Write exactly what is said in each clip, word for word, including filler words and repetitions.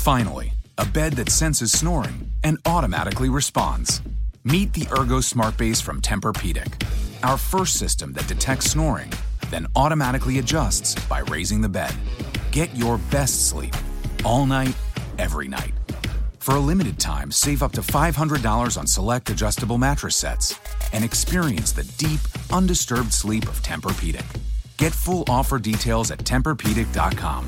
Finally, a bed that senses snoring and automatically responds. Meet the Ergo Smart Base from Tempur-Pedic, our first system that detects snoring, then automatically adjusts by raising the bed. Get your best sleep all night, every night. For a limited time, save up to five hundred dollars on select adjustable mattress sets and experience the deep, undisturbed sleep of Tempur-Pedic. Get full offer details at Tempur Pedic dot com.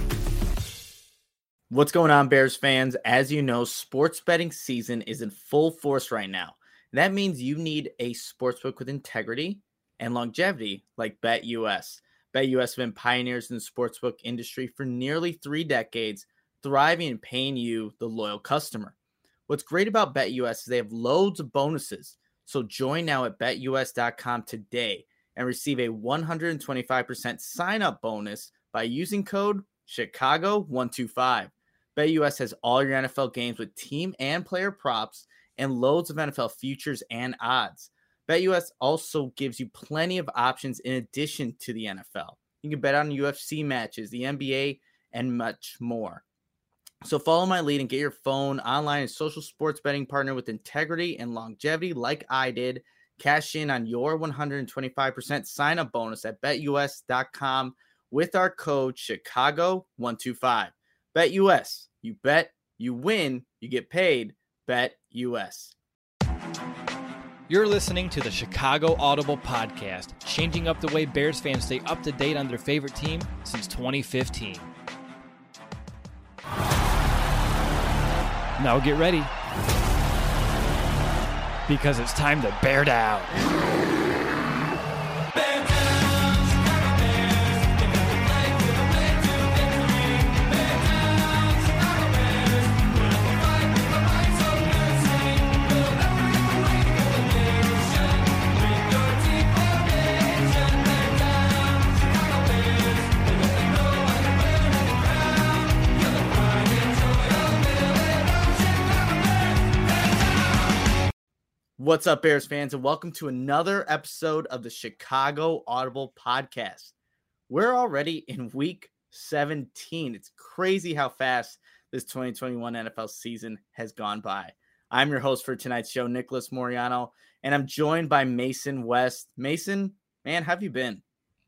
What's going on, Bears fans? As you know, sports betting season is in full force right now. That means you need a sportsbook with integrity and longevity like BetUS. BetUS have been pioneers in the sportsbook industry for nearly three decades, thriving and paying you, the loyal customer. What's great about BetUS is they have loads of bonuses. So join now at Bet U S dot com today and receive a one hundred twenty-five percent sign-up bonus by using code Chicago one two five. BetUS has all your N F L games with team and player props and loads of N F L futures and odds. BetUS also gives you plenty of options in addition to the N F L. You can bet on U F C matches, the N B A, and much more. So follow my lead and get your phone, online, and social sports betting partner with integrity and longevity like I did. Cash in on your one hundred twenty-five percent sign-up bonus at Bet U S dot com with our code Chicago one two five. BetUS, you bet, you win, you get paid. BetUS. You're listening to the Chicago Audible Podcast, changing up the way Bears fans stay up to date on their favorite team since twenty fifteen. Now get ready, because it's time to bear down. What's up, Bears fans, and welcome to another episode of the Chicago Audible Podcast. We're already in week seventeen. It's crazy how fast this twenty twenty-one N F L season has gone by. I'm your host for tonight's show, Nicholas Moriano, and I'm joined by Mason West. Mason, man, how have you been?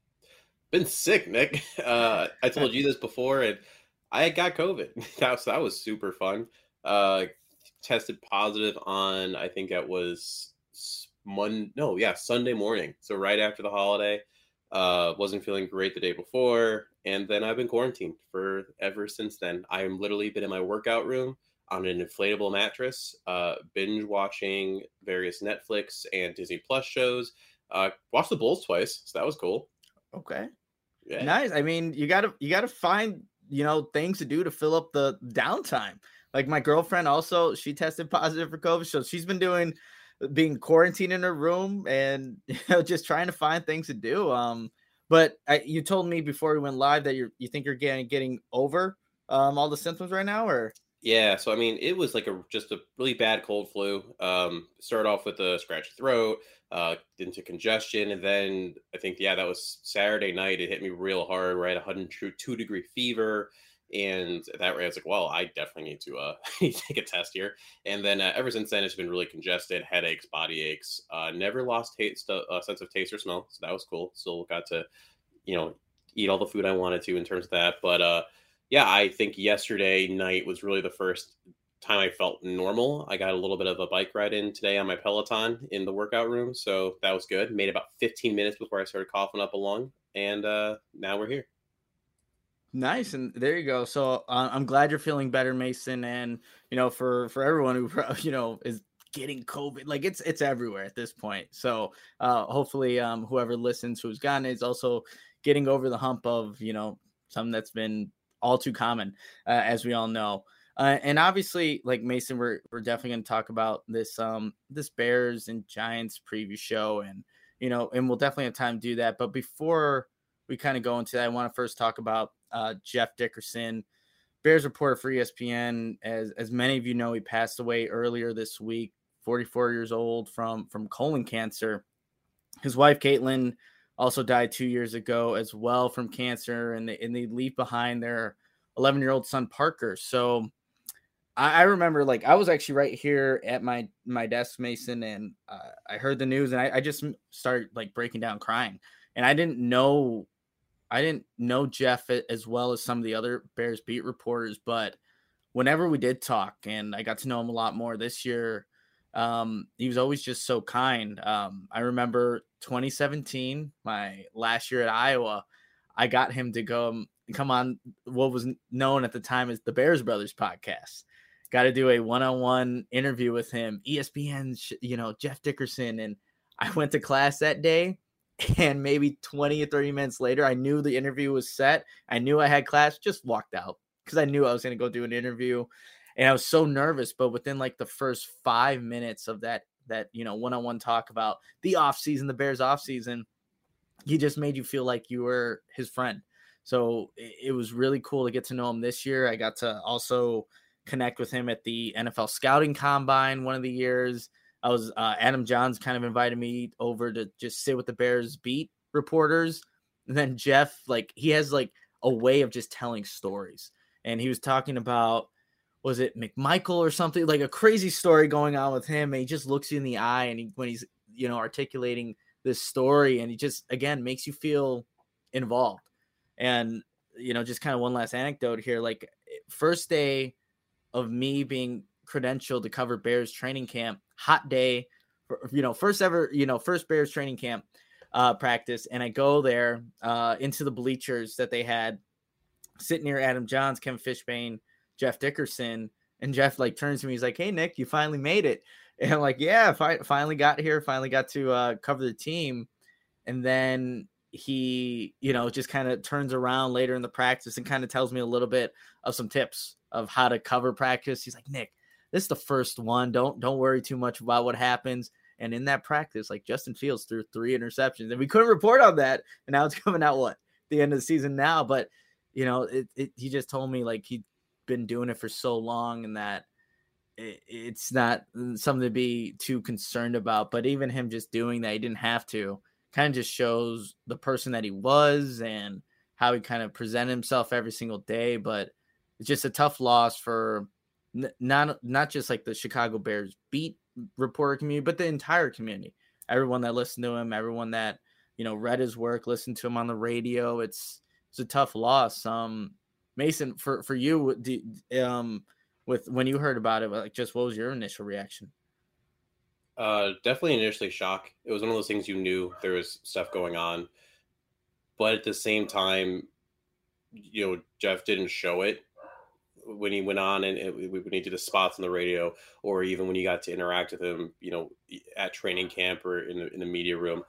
Been sick, Nick. Uh, I told you this before, and I got COVID. That was, that was super fun. Uh, tested positive on, I think that was Monday, no, yeah, Sunday morning. So right after the holiday, uh, wasn't feeling great the day before. And then I've been quarantined for ever since then. I'm literally been in my workout room on an inflatable mattress, uh, binge watching various Netflix and Disney Plus shows, uh, watched the Bulls twice. So that was cool. Okay. Yeah. Nice. I mean, you gotta, you gotta find, you know, things to do to fill up the downtime. Like my girlfriend also, she tested positive for COVID. So she's been doing, being quarantined in her room and, you know, just trying to find things to do. Um, but I, you told me before we went live that you're, you think you're getting, getting over um, all the symptoms right now, or? Yeah. So, I mean, it was like a, just a really bad cold flu. Um, started off with a scratchy throat, uh, into congestion. And then I think, yeah, that was Saturday night. It hit me real hard, right? one hundred two degree fever. And that way I was like, well, I definitely need to uh, take a test here. And then uh, ever since then, it's been really congested, headaches, body aches. Uh, never lost taste, uh, sense of taste or smell. So that was cool. Still got to, you know, eat all the food I wanted to in terms of that. But uh, yeah, I think yesterday night was really the first time I felt normal. I got a little bit of a bike ride in today on my Peloton in the workout room. So that was good. Made about fifteen minutes before I started coughing up a lung. And uh, now we're here. Nice. And there you go. So uh, I'm glad you're feeling better, Mason. And, you know, for, for everyone who, you know, is getting COVID, like it's, it's everywhere at this point. So uh, hopefully um, whoever listens, who's gotten it, is also getting over the hump of, you know, something that's been all too common, uh, as we all know. Uh, and obviously, like Mason, we're, we're definitely going to talk about this, um, this Bears and Giants preview show, and, you know, and we'll definitely have time to do that. But before we kind of go into that, I want to first talk about Uh, Jeff Dickerson, Bears reporter for E S P N. As as many of you know, he passed away earlier this week, forty-four years old, from from colon cancer. His wife Caitlin also died two years ago as well from cancer, and they and they leave behind their eleven year old son, Parker. So I, I remember like I was actually right here at my, my desk, Mason, and uh, I heard the news and I, I just started like breaking down crying, and I didn't know, I didn't know Jeff as well as some of the other Bears beat reporters, but whenever we did talk and I got to know him a lot more this year, um, he was always just so kind. Um, I remember twenty seventeen, my last year at Iowa, I got him to go come on what was known at the time as the Bears Brothers podcast. Got to do a one-on-one interview with him, E S P N's, you know, Jeff Dickerson. And I went to class that day, and maybe twenty or thirty minutes later, I knew the interview was set. I knew I had class, just walked out because I knew I was going to go do an interview. And I was so nervous, but within like the first five minutes of that, that, you know, one-on-one talk about the off season, the Bears off season, he just made you feel like you were his friend. So it, it was really cool to get to know him this year. I got to also connect with him at the N F L scouting combine one of the years. I was uh, Adam Johns kind of invited me over to just sit with the Bears beat reporters. And then Jeff, like he has like a way of just telling stories. And he was talking about, was it McMichael or something, like a crazy story going on with him. And he just looks you in the eye and he, when he's, you know, articulating this story, and he just, again, makes you feel involved. And, you know, just kind of one last anecdote here, like first day of me being credentialed to cover Bears training camp, hot day, for, you know, first ever, you know, first Bears training camp uh, practice. And I go there uh, into the bleachers that they had, sit near Adam Johns, Kevin Fishbane, Jeff Dickerson, and Jeff like turns to me. He's like, "Hey, Nick, you finally made it." And I'm like, "Yeah, fi- finally got here. Finally got to uh, cover the team." And then he, you know, just kind of turns around later in the practice and kind of tells me a little bit of some tips of how to cover practice. He's like, "Nick, this is the first one. Don't don't worry too much about what happens." And in that practice, like Justin Fields threw three interceptions, and we couldn't report on that. And now it's coming out what the end of the season now, but you know, it, it he just told me like he'd been doing it for so long and that it, it's not something to be too concerned about. But even him just doing that, he didn't have to, kind of just shows the person that he was and how he kind of presented himself every single day. But it's just a tough loss for n- not not just like the Chicago Bears beat reporter community, but the entire community. Everyone that listened to him, everyone that, you know, read his work, listened to him on the radio. It's it's a tough loss. Um, Mason, for for you, do, um, with when you heard about it, like just what was your initial reaction? Uh, definitely initially shock. It was one of those things you knew there was stuff going on, but at the same time, you know, Jeff didn't show it when he went on and it, when he did the spots on the radio, or even when you got to interact with him, you know, at training camp or in the in the media room.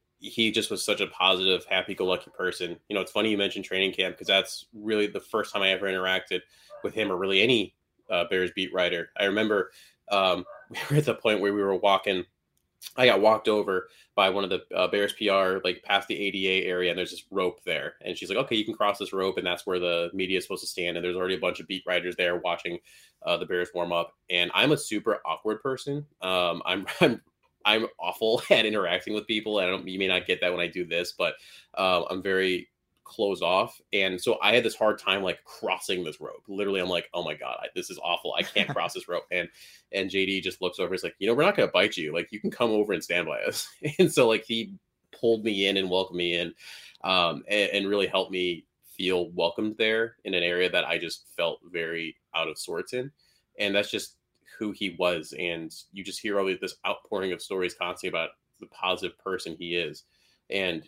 He just was such a positive, happy-go-lucky person. You know, it's funny you mentioned training camp because that's really the first time I ever interacted with him or really any uh, Bears beat writer. I remember um, we were at the point where we were walking. I got walked over by one of the uh, Bears P R, like past the A D A area, and there's this rope there. And she's like, "Okay, you can cross this rope," and that's where the media is supposed to stand. And there's already a bunch of beat writers there watching uh, the Bears warm up. And I'm a super awkward person. Um, I'm, I'm I'm awful at interacting with people. I don't, you may not get that when I do this, but uh, I'm very closed off. And so I had this hard time like crossing this rope. Literally, I'm like, "Oh my God, I, this is awful. I can't cross this rope." And, and J D just looks over. He's like, "You know, we're not going to bite you. Like, you can come over and stand by us." And so like he pulled me in and welcomed me in um, and, and really helped me feel welcomed there in an area that I just felt very out of sorts in. And that's just who he was. And you just hear all this outpouring of stories constantly about the positive person he is. And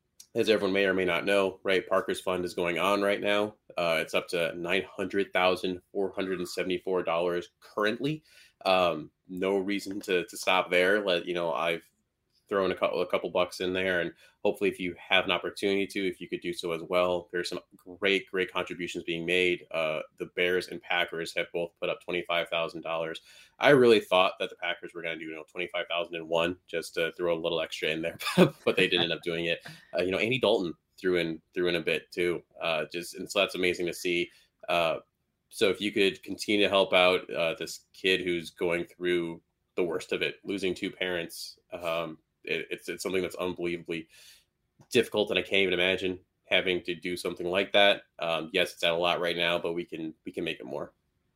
as everyone may or may not know, right, Parker's Fund is going on right now. Uh, it's up to nine hundred thousand four hundred seventy-four dollars currently. Um, no reason to to stop there. Let you know, I've thrown a couple a couple bucks in there, and hopefully, if you have an opportunity to, if you could do so as well. There's some great great contributions being made. Uh, the Bears and Packers have both put up twenty-five thousand dollars. I really thought that the Packers were going to do, you know, twenty-five thousand and one just to throw a little extra in there, but they didn't end up doing it. Uh, you know, Andy Dalton threw in threw in a bit too. Uh, just and so that's amazing to see. Uh, so if you could continue to help out uh, this kid who's going through the worst of it, losing two parents. Um, it, it's it's something that's unbelievably difficult, and I can't even imagine having to do something like that. Um, yes, it's at a lot right now, but we can we can make it more.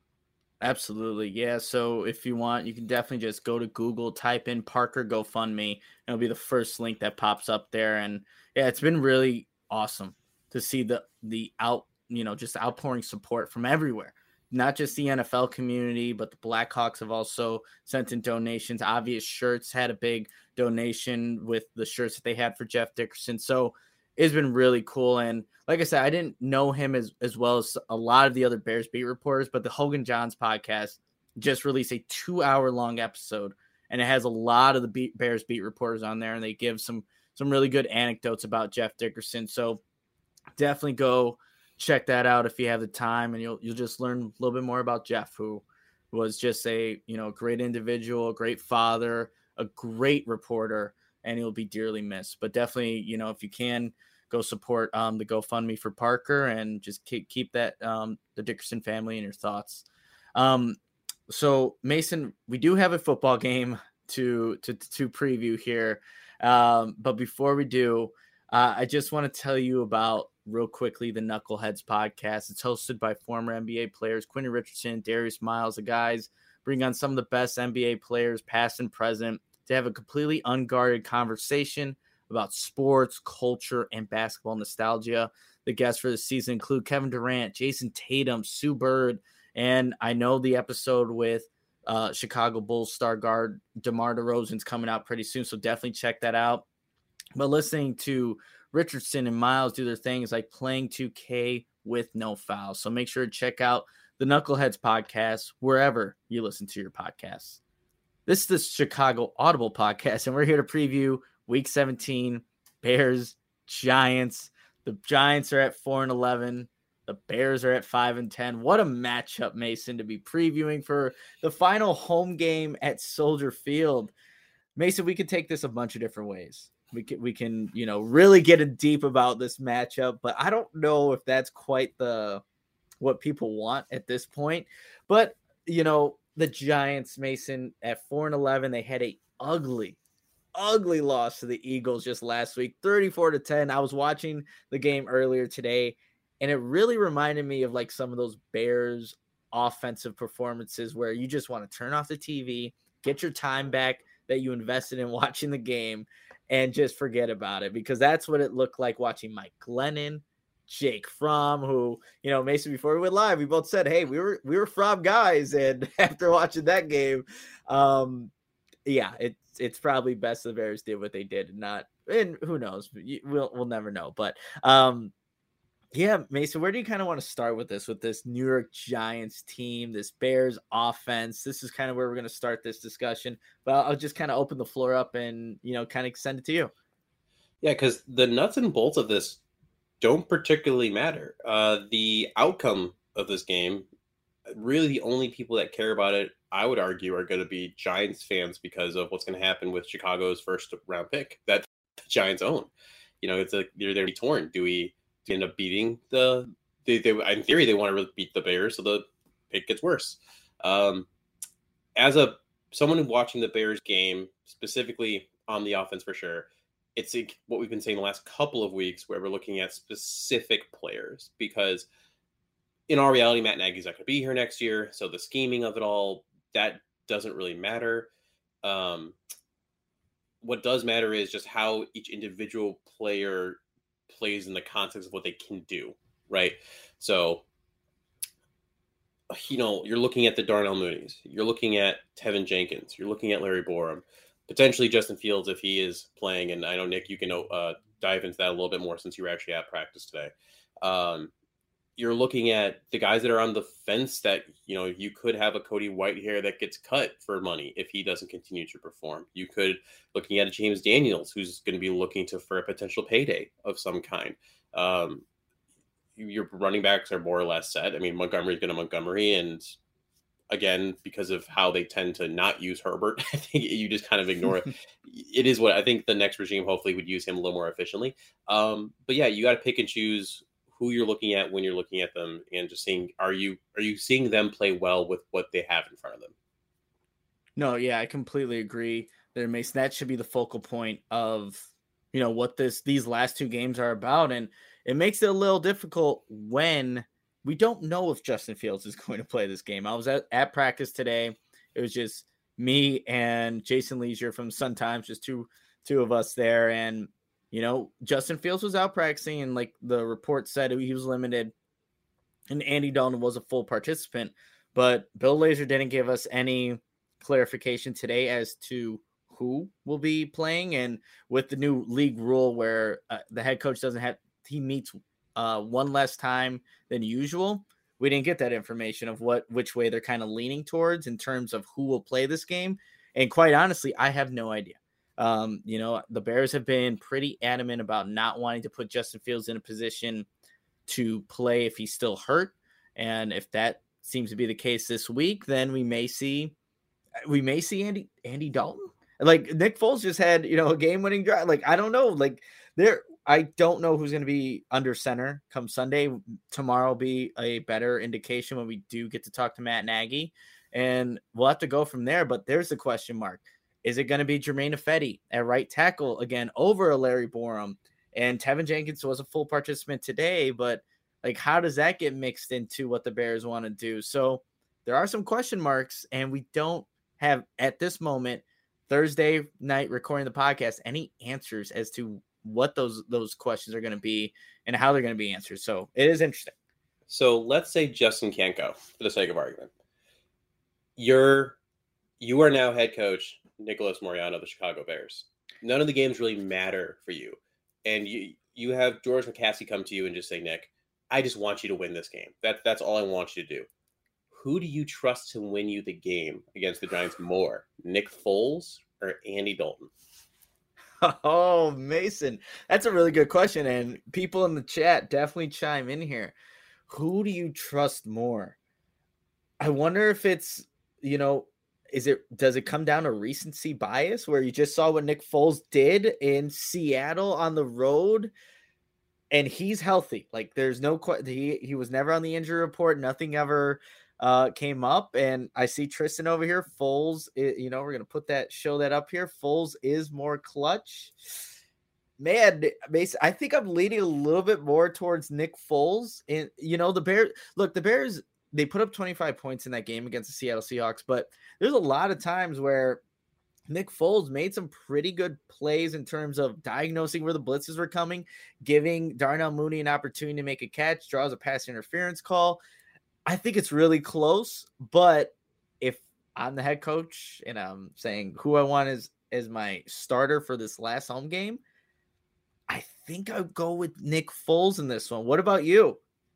Absolutely. Yeah. So if you want, you can definitely just go to Google, type in Parker GoFundMe, and it'll be the first link that pops up there. And yeah, it's been really awesome to see the the out, you know, just outpouring support from everywhere. Not just the N F L community, but the Blackhawks have also sent in donations. Obvious Shirts had a big donation with the shirts that they had for Jeff Dickerson. So it's been really cool. And like I said, I didn't know him as, as well as a lot of the other Bears beat reporters, but the Hogan Johns podcast just released a two hour long episode, and it has a lot of the beat, Bears beat reporters on there, and they give some, some really good anecdotes about Jeff Dickerson. So definitely go check that out if you have the time, and you'll, you'll just learn a little bit more about Jeff, who was just a, you know, great individual, a great father, a great reporter, and he'll be dearly missed. But definitely, you know, if you can, go support um, the GoFundMe for Parker, and just keep, keep that um, the Dickerson family in your thoughts. Um, so Mason, we do have a football game to to to preview here, um, but before we do, uh, I just want to tell you about real quickly the Knuckleheads podcast. It's hosted by former N B A players Quentin Richardson, Darius Miles. The guys bring on some of the best N B A players, past and present, to have a completely unguarded conversation about sports, culture, and basketball nostalgia. The guests for the season include Kevin Durant, Jason Tatum, Sue Bird, and I know the episode with uh, Chicago Bulls star guard DeMar DeRozan's coming out pretty soon, so definitely check that out. But listening to Richardson and Miles do their things like playing two K with no fouls. So make sure to check out the Knuckleheads podcast wherever you listen to your podcasts. This is the Chicago Audible podcast, and we're here to preview Week seventeen, Bears, Giants. The Giants are at four and eleven. The Bears are at five and ten. What a matchup, Mason, to be previewing for the final home game at Soldier Field. Mason, we could take this a bunch of different ways. We can, we can, you know, really get in deep about this matchup, but I don't know if that's quite the what people want at this point. But, you know, the Giants, Mason, at four and eleven, they had a ugly ugly loss to the Eagles just last week, thirty-four to ten. I was watching the game earlier today, and it really reminded me of like some of those Bears offensive performances where you just want to turn off the T V, get your time back that you invested in watching the game, and just forget about it, because that's what it looked like watching Mike Glennon, Jake Fromm, who, you know, Mason, before we went live, we both said, hey, we were we were Fromm guys, and after watching that game, um, yeah, it it's probably best the Bears did what they did, and not, and who knows, we'll we'll never know. But um, yeah, Mason, where do you kind of want to start with this, with this New York Giants team, this Bears offense? This is kind of where we're going to start this discussion, but I'll, I'll just kind of open the floor up and, you know, kind of send it to you. Yeah, because the nuts and bolts of this don't particularly matter. Uh, the outcome of this game, really the only people that care about it, I would argue, are going to be Giants fans, because of what's going to happen with Chicago's first round pick that the Giants own. You know, it's a, they're they're torn. Do we end up beating the? They, they in theory they want to really beat the Bears, so the pick gets worse. Um, as a someone watching the Bears game, specifically on the offense for sure, it's like what we've been saying the last couple of weeks, where we're looking at specific players, because in our reality, Matt Nagy's not going to be here next year, so the scheming of it all, that doesn't really matter. Um, what does matter is just how each individual player plays in the context of what they can do, right? So, you know, you're looking at the Darnell Mooney's, you're looking at Tevin Jenkins, you're looking at Larry Borum, potentially Justin Fields if he is playing. And I know, Nick, you can uh, dive into that a little bit more since you were actually at practice today. Um, you're looking at the guys that are on the fence that, you know, you could have a Cody Whitehair that gets cut for money if he doesn't continue to perform. You could looking at a James Daniels who's going to be looking to for a potential payday of some kind. Um, your running backs are more or less set. I mean, Montgomery's going to Montgomery, and again, because of how they tend to not use Herbert, I think you just kind of ignore it. It is what I think the next regime hopefully would use him a little more efficiently. Um, but yeah, you got to pick and choose who you're looking at when you're looking at them, and just seeing, are you, are you seeing them play well with what they have in front of them? No, yeah, I completely agree there, Mason. That should be the focal point of, you know, what this, these last two games are about. And it makes it a little difficult when we don't know if Justin Fields is going to play this game. I was at, at practice today. It was just me and Jason Leisure from Sun Times, just two two of us there. And, you know, Justin Fields was out practicing, and like the report said, he was limited. And Andy Dalton was a full participant. But Bill Lazor didn't give us any clarification today as to who will be playing. And with the new league rule where uh, the head coach doesn't have, he meets uh, one less time than usual, we didn't get that information of what, which way they're kind of leaning towards in terms of who will play this game. And quite honestly, I have no idea. Um, you know, the Bears have been pretty adamant about not wanting to put Justin Fields in a position to play if he's still hurt. And if that seems to be the case this week, then we may see, we may see Andy, Andy Dalton. Like Nick Foles just had, you know, a game winning drive. Like, I don't know, like there, I don't know who's going to be under center come Sunday. Tomorrow will be a better indication when we do get to talk to Matt Nagy, and we'll have to go from there. But there's the question mark. Is it going to be Jermaine Ifedi at right tackle again over a Larry Borum? And Tevin Jenkins was a full participant today, but like, how does that get mixed into what the Bears want to do? So there are some question marks, and we don't have at this moment, Thursday night recording the podcast, any answers as to what those those questions are going to be and how they're going to be answered. So it is interesting. So let's say Justin can't go, for the sake of argument. You're you are now head coach Nicholas Moreano of the Chicago Bears. None of the games really matter for you, and you you have George McCaskey come to you and just say, Nick, I just want you to win this game. That that's all I want you to do. Who do you trust to win you the game against the Giants more, Nick Foles or Andy Dalton? Oh, Mason, that's a really good question. And people in the chat definitely chime in here. Who do you trust more? I wonder if it's, you know, is it, does it come down to recency bias where you just saw what Nick Foles did in Seattle on the road and he's healthy? Like there's no, he, he was never on the injury report. Nothing ever Uh, came up, and I see Tristan over here. Foles, you know, we're gonna put that, show that up here. Foles is more clutch. Man, I think I'm leaning a little bit more towards Nick Foles. And you know, the Bears. Look, the Bears. They put up twenty-five points in that game against the Seattle Seahawks, but there's a lot of times where Nick Foles made some pretty good plays in terms of diagnosing where the blitzes were coming, giving Darnell Mooney an opportunity to make a catch, draws a pass interference call. I think it's really close, but if I'm the head coach and I'm saying who I want as, as my starter for this last home game, I think I'll go with Nick Foles in this one. What about you?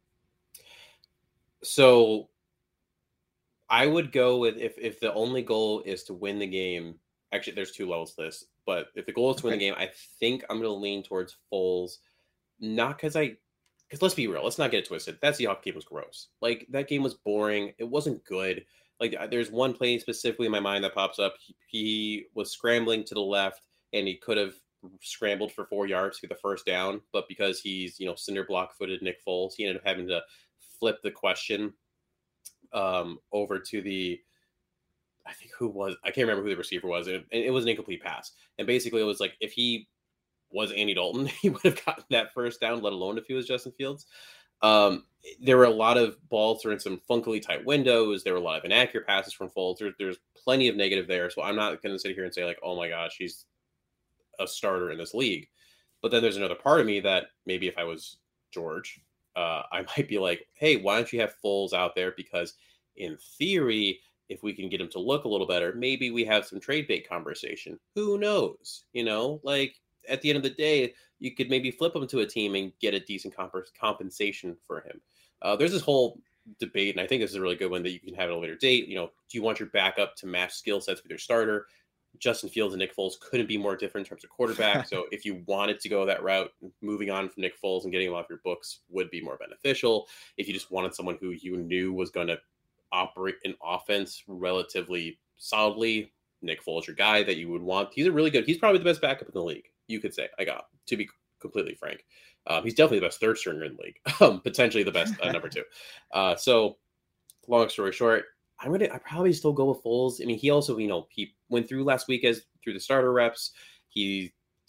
So I would go with, if, if the only goal is to win the game, actually there's two levels to this, but if the goal is to win the game, I think I'm going to lean towards Foles, not because I, Because let's be real, let's not get it twisted. That Seahawks game was gross. Like, that game was boring. It wasn't good. Like, there's one play specifically in my mind that pops up. He, he was scrambling to the left, and he could have scrambled for four yards to get the first down. But because he's, you know, cinder block-footed Nick Foles, he ended up having to flip the question um, over to the, I think who was, I can't remember who the receiver was. And it, it was an incomplete pass. And basically, it was like, if he was Andy Dalton, he would have gotten that first down, let alone if he was Justin Fields. Um, there were a lot of balls through in some funkily tight windows. There were a lot of inaccurate passes from Foles. There, there's plenty of negative there. So I'm not going to sit here and say like, oh my gosh, he's a starter in this league. But then there's another part of me that maybe if I was George, uh, I might be like, hey, why don't you have Foles out there? Because in theory, if we can get him to look a little better, maybe we have some trade bait conversation. Who knows? You know, like, at the end of the day, you could maybe flip him to a team and get a decent comp- compensation for him. Uh, there's this whole debate, and I think this is a really good one that you can have at a later date. You know, do you want your backup to match skill sets with your starter? Justin Fields and Nick Foles couldn't be more different in terms of quarterback. So if you wanted to go that route, moving on from Nick Foles and getting him off your books would be more beneficial. If you just wanted someone who you knew was going to operate an offense relatively solidly, Nick Foles, your guy that you would want. He's a really good, he's probably the best backup in the league. You could say, I got, to be completely frank. Um, he's definitely the best third stringer in the league, um, potentially the best uh, number two. Uh, so, long story short, I'm gonna, I probably still go with Foles. I mean, he also, you know, he went through last week as through the starter reps. He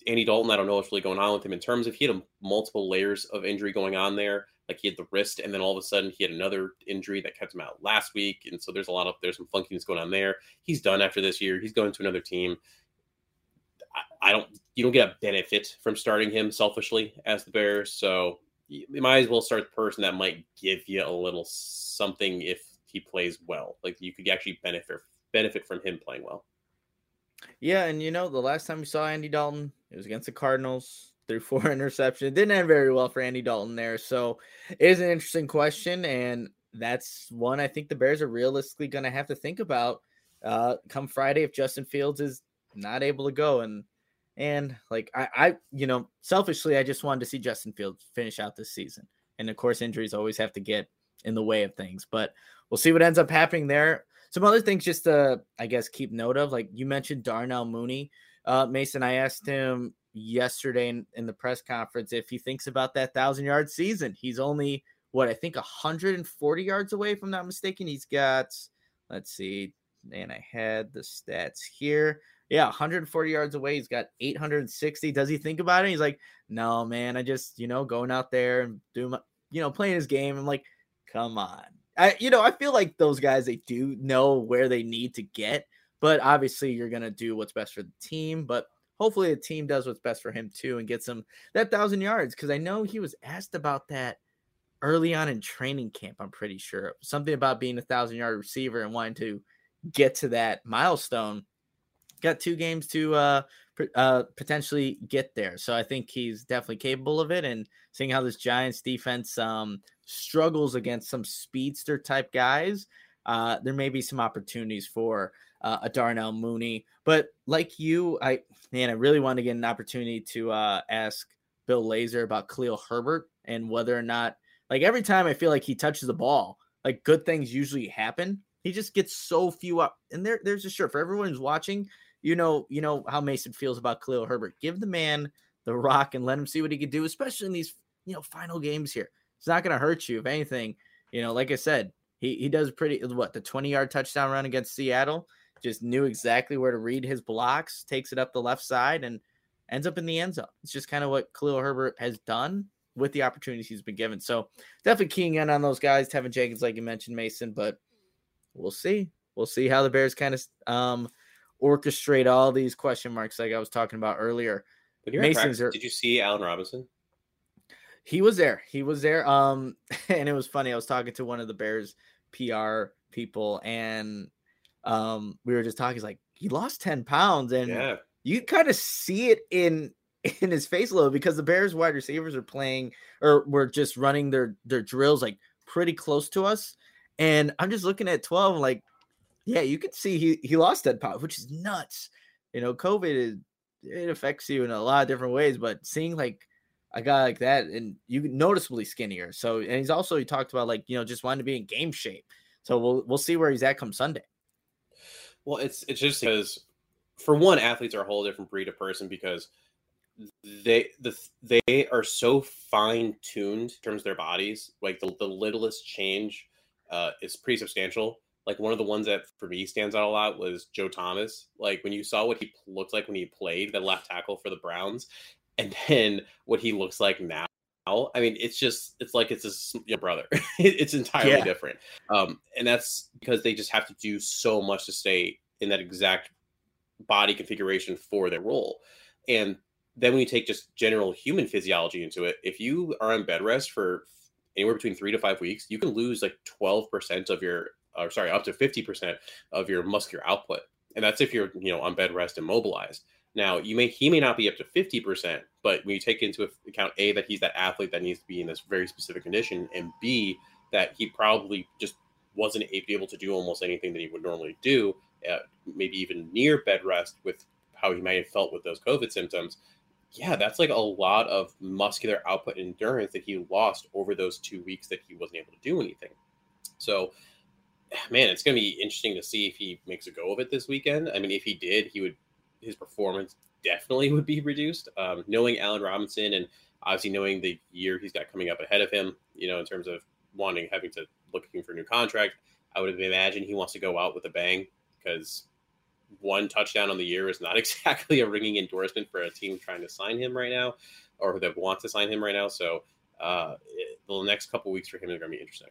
Andy Dalton, I don't know what's really going on with him in terms of he had a, multiple layers of injury going on there. Like he had the wrist, and then all of a sudden he had another injury that kept him out last week. And so there's a lot of, there's some funkiness going on there. He's done after this year. He's going to another team. I, I don't, you don't get a benefit from starting him selfishly as the Bears. So you, you might as well start the person that might give you a little something if he plays well. Like you could actually benefit, benefit from him playing well. Yeah. And you know, the last time we saw Andy Dalton, it was against the Cardinals. Threw four interceptions. It didn't end very well for Andy Dalton there. So it is an interesting question. And that's one I think the Bears are realistically going to have to think about uh, come Friday if Justin Fields is not able to go. And, and like, I, I, you know, selfishly, I just wanted to see Justin Fields finish out this season. And of course, injuries always have to get in the way of things, but we'll see what ends up happening there. Some other things just to, I guess, keep note of, like you mentioned Darnell Mooney. Uh, Mason, I asked him yesterday in, in the press conference if he thinks about that thousand yard season. He's only what I think one hundred forty yards away, if I'm not mistaken. He's got, let's see, and I had the stats here. Yeah, one hundred forty yards away. He's got eight hundred sixty. Does he think about it? He's like, no, man, I just, you know, going out there and doing my, you know, playing his game. I'm like, come on. I, you know, I feel like those guys, they do know where they need to get, but obviously you're going to do what's best for the team. But hopefully the team does what's best for him too and gets him that thousand yards. Cause I know he was asked about that early on in training camp. I'm pretty sure something about being a thousand yard receiver and wanting to get to that milestone. Got two games to uh, uh, potentially get there. So I think he's definitely capable of it. And seeing how this Giants defense um, struggles against some speedster type guys, uh, there may be some opportunities for uh, a Darnell Mooney. But like you, I man, I really want to get an opportunity to uh, ask Bill Lazor about Khalil Herbert and whether or not, like every time I feel like he touches the ball, like good things usually happen. He just gets so few up. And there, there's a shirt for everyone who's watching. You know, you know how Mason feels about Khalil Herbert. Give the man the rock and let him see what he can do, especially in these, you know, final games here. It's not going to hurt you. If anything, you know, like I said, he, he does pretty, what, the twenty-yard touchdown run against Seattle, just knew exactly where to read his blocks, takes it up the left side, and ends up in the end zone. It's just kind of what Khalil Herbert has done with the opportunities he's been given. So definitely keying in on those guys, Tevin Jenkins, like you mentioned, Mason, but we'll see. We'll see how the Bears kind of um, orchestrate all these question marks like I was talking about earlier. But you're Mason's are, did you see Allen Robinson? He was there. He was there. Um, and it was funny. I was talking to one of the Bears P R people, and um, we were just talking. He's like, he lost ten pounds, and yeah. you kind of see it in in his face a little because the Bears wide receivers are playing or were just running their their drills like pretty close to us, and I'm just looking at twelve, like, yeah, you can see he he lost ten pounds, which is nuts. You know, COVID is it affects you in a lot of different ways, but seeing like a guy like that, and you noticeably skinnier. So, and he's also, he talked about like, you know, just wanting to be in game shape. So we'll, we'll see where he's at come Sunday. Well, it's, it's just because for one, athletes are a whole different breed of person because they, the, they are so fine tuned in terms of their bodies. Like the, the littlest change uh, is pretty substantial. Like one of the ones that for me stands out a lot was Joe Thomas. Like when you saw what he looked like when he played the left tackle for the Browns, and then what he looks like now, I mean, it's just, it's like it's his your brother. It's entirely yeah. different. Um, and that's because they just have to do so much to stay in that exact body configuration for their role. And then when you take just general human physiology into it, if you are on bed rest for anywhere between three to five weeks, you can lose like twelve percent of your, or sorry, up to fifty percent of your muscular output. And that's if you're, you know, on bed rest and mobilized. Now, you may he may not be up to fifty percent, but when you take into account, A, that he's that athlete that needs to be in this very specific condition, and B, that he probably just wasn't able to do almost anything that he would normally do, uh, maybe even near bed rest with how he might have felt with those COVID symptoms, yeah, that's like a lot of muscular output and endurance that he lost over those two weeks that he wasn't able to do anything. So, man, it's going to be interesting to see if he makes a go of it this weekend. I mean, if he did, he would his performance definitely would be reduced. Um, knowing Allen Robinson and obviously knowing the year he's got coming up ahead of him, you know, in terms of wanting, having to looking for a new contract, I would imagine he wants to go out with a bang because one touchdown on the year is not exactly a ringing endorsement for a team trying to sign him right now, or that wants to sign him right now. So uh, it, the next couple weeks for him are going to be interesting.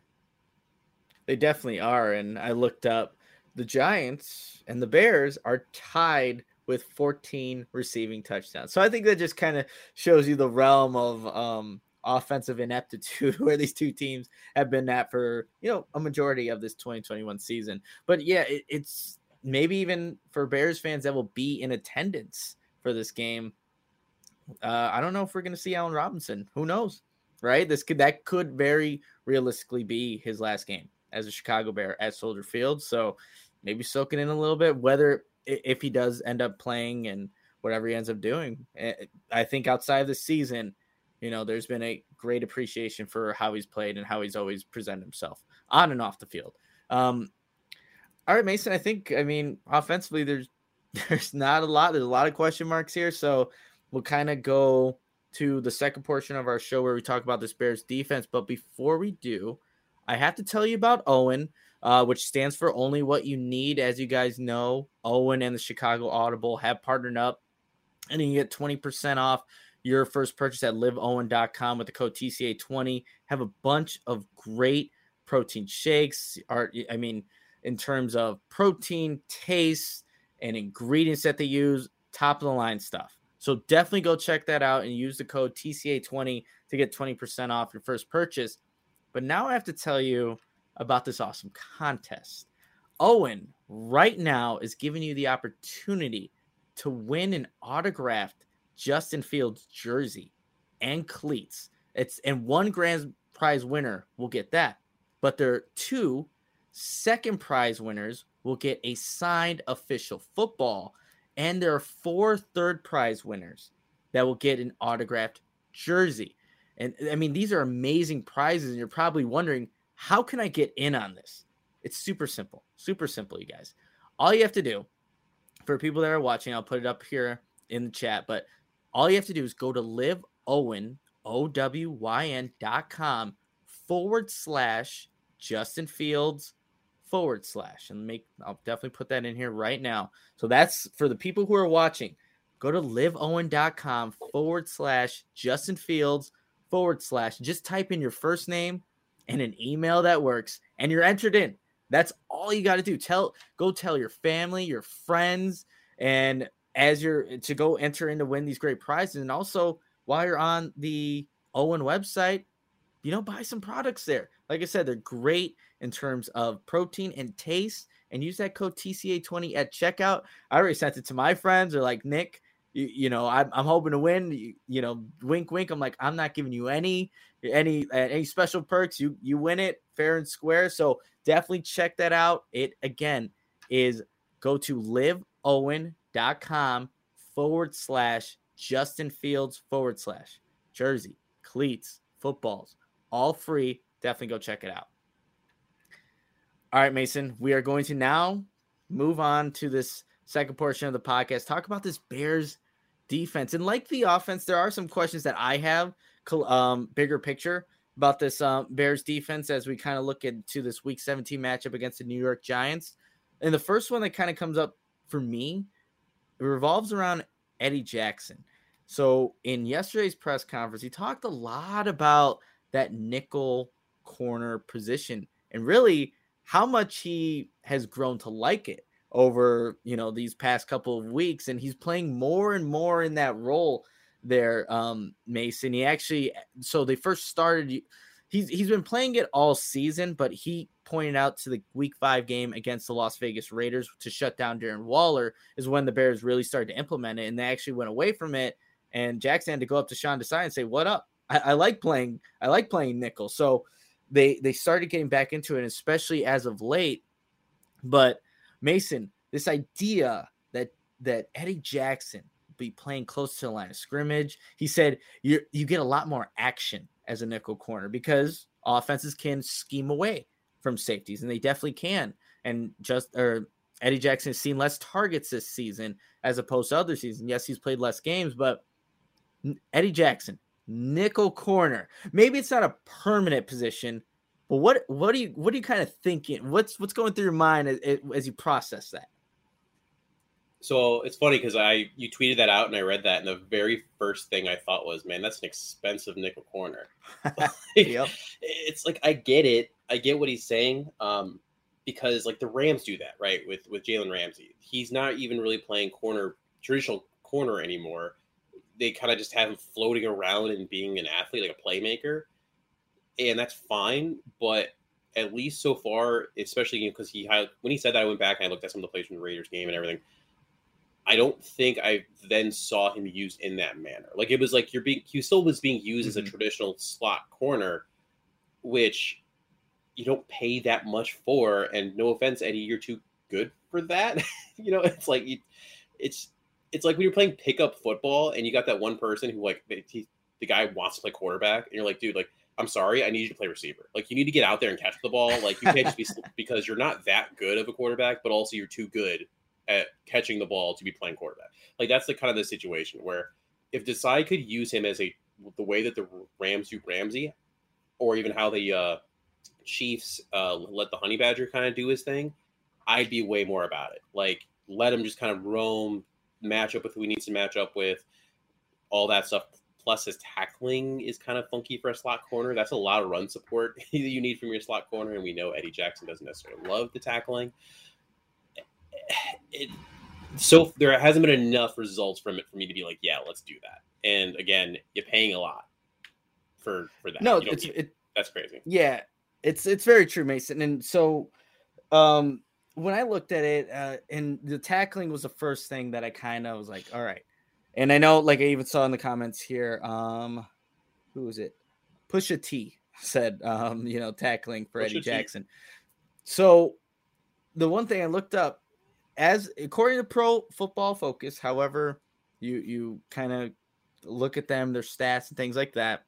They definitely are. And I looked up, the Giants and the Bears are tied with fourteen receiving touchdowns. So I think that just kind of shows you the realm of um, offensive ineptitude where these two teams have been at for, you know, a majority of this twenty twenty-one season. But yeah, it, it's maybe even for Bears fans that will be in attendance for this game. Uh, I don't know if we're going to see Allen Robinson. Who knows, right? This could, that could very realistically be his last game as a Chicago Bear at Soldier Field. So maybe soaking in a little bit, whether if he does end up playing and whatever he ends up doing. I think outside of the season, you know, there's been a great appreciation for how he's played and how he's always presented himself on and off the field. Um, all right, Mason, I think, I mean, offensively, there's, there's not a lot, there's a lot of question marks here. So we'll kind of go to the second portion of our show where we talk about this Bears defense. But before we do, I have to tell you about Owen, uh, which stands for Only What You Need. As you guys know, Owen and the Chicago Audible have partnered up, and you get twenty percent off your first purchase at live owen dot com with the code T C A twenty. Have a bunch of great protein shakes. Are, I mean, in terms of protein, taste, and ingredients that they use, top of the line stuff. So definitely go check that out and use the code T C A twenty to get twenty percent off your first purchase. But now I have to tell you about this awesome contest. Owen right now is giving you the opportunity to win an autographed Justin Fields jersey and cleats. It's and one grand prize winner will get that. But there are two second prize winners will get a signed official football. And there are four third prize winners that will get an autographed jersey. And I mean, these are amazing prizes. And you're probably wondering, how can I get in on this? It's super simple, super simple, you guys. All you have to do for people that are watching, I'll put it up here in the chat, but all you have to do is go to live owen, O W Y N dot com forward slash Justin Fields forward slash, and make, I'll definitely put that in here right now. So that's for the people who are watching. Go to live owen dot com forward slash Justin Fields forward slash. Just type in your first name and an email that works, and you're entered in. That's all you got to do. Tell, go tell your family, your friends, and as you're to go enter in to win these great prizes. And also, while you're on the Owen website, you know, buy some products there. Like I said, they're great in terms of protein and taste, and use that code T C A twenty at checkout. I already sent it to my friends. They're like, Nick, you, you know, I'm, I'm hoping to win, you, you know, wink, wink. I'm like, I'm not giving you any, any, uh, any special perks. You, you win it fair and square. So definitely check that out. It again is go to live owen dot com forward slash Justin Fields forward slash jersey, cleats, footballs, all free. Definitely go check it out. All right, Mason, we are going to now move on to this second portion of the podcast. Talk about this Bears defense. And like the offense, there are some questions that I have, um, bigger picture about this um, Bears defense as we kind of look into this week seventeen matchup against the New York Giants. And the first one that kind of comes up for me, it revolves around Eddie Jackson. So in yesterday's press conference, he talked a lot about that nickel corner position and really how much he has grown to like it over, you know, these past couple of weeks. And he's playing more and more in that role there, um, Mason. He actually, so they first started, he's he's been playing it all season, but he pointed out to the week five game against the Las Vegas Raiders to shut down Darren Waller is when the Bears really started to implement it. And they actually went away from it. And Jackson had to go up to Sean Desai and say, what up? I, I like playing, I like playing nickel. So they, they started getting back into it, especially as of late. But Mason, this idea that, that Eddie Jackson be playing close to the line of scrimmage, he said you you get a lot more action as a nickel corner because offenses can scheme away from safeties, and they definitely can. And just or Eddie Jackson has seen less targets this season as opposed to other seasons. Yes, he's played less games, but Eddie Jackson, nickel corner. Maybe it's not a permanent position, but what what do you what are you kind of thinking? What's what's going through your mind as, as you process that? So it's funny because I you tweeted that out and I read that, and the very first thing I thought was, man, that's an expensive nickel corner. Like, Yep. It's like I get it, I get what he's saying, um, because like the Rams do that, right? With with Jalen Ramsey, he's not even really playing corner, traditional corner anymore. They kind of just have him floating around and being an athlete, like a playmaker, and that's fine. But at least so far, especially because you know, he when he said that, I went back and I looked at some of the plays from the Raiders game and everything. I don't think I then saw him used in that manner. Like it was like you're being, he still was being used mm-hmm. as a traditional slot corner, which you don't pay that much for. And no offense, Eddie, you're too good for that. You know, it's like, you, it's, it's like when you're playing pickup football and you got that one person who like, he, the guy wants to play quarterback and you're like, dude, like, I'm sorry, I need you to play receiver. Like you need to get out there and catch the ball. Like you can't just be, because you're not that good of a quarterback, but also you're too good at catching the ball to be playing quarterback. Like that's the kind of the situation where if Desai could use him as a the way that the Rams do Ramsey, or even how the uh, Chiefs uh, let the Honey Badger kind of do his thing, I'd be way more about it. Like let him just kind of roam, match up with who he needs to match up with, all that stuff. Plus his tackling is kind of funky for a slot corner. That's a lot of run support you need from your slot corner, and we know Eddie Jackson doesn't necessarily love the tackling. It, so there hasn't been enough results from it for me to be like, yeah, let's do that. And again, you're paying a lot for for that. No, you it's it, that's crazy. Yeah, it's it's very true, Mason. And so, um, when I looked at it, uh, and the tackling was the first thing that I kind of was like, all right. And I know, like I even saw in the comments here, um, who was it? Pusha T said, um, you know, tackling for Pusha Eddie T. Jackson. So the one thing I looked up. As according to Pro Football Focus, however, you you kind of look at them, their stats and things like that.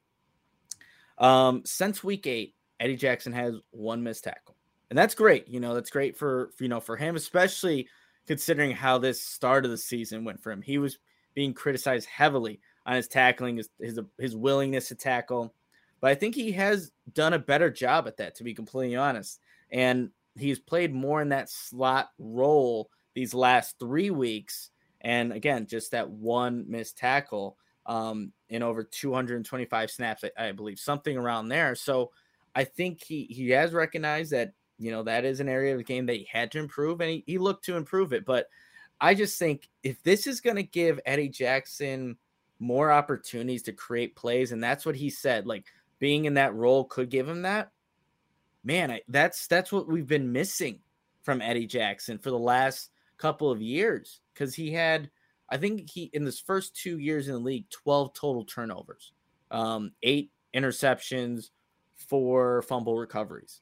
Um, since week eight, Eddie Jackson has one missed tackle, and that's great. You know, that's great for you know for him, especially considering how this start of the season went for him. He was being criticized heavily on his tackling, his his, his willingness to tackle, but I think he has done a better job at that, to be completely honest. And he's played more in that slot role these last three weeks. And again, just that one missed tackle um, in over two hundred twenty-five snaps, I, I believe, something around there. So I think he, he has recognized that, you know, that is an area of the game that he had to improve, and he, he looked to improve it. But I just think if this is going to give Eddie Jackson more opportunities to create plays, and that's what he said, like being in that role could give him that, man, I, that's, that's what we've been missing from Eddie Jackson for the last couple of years. Cause he had, I think he, in his first two years in the league, twelve total turnovers, um, eight interceptions, four fumble recoveries.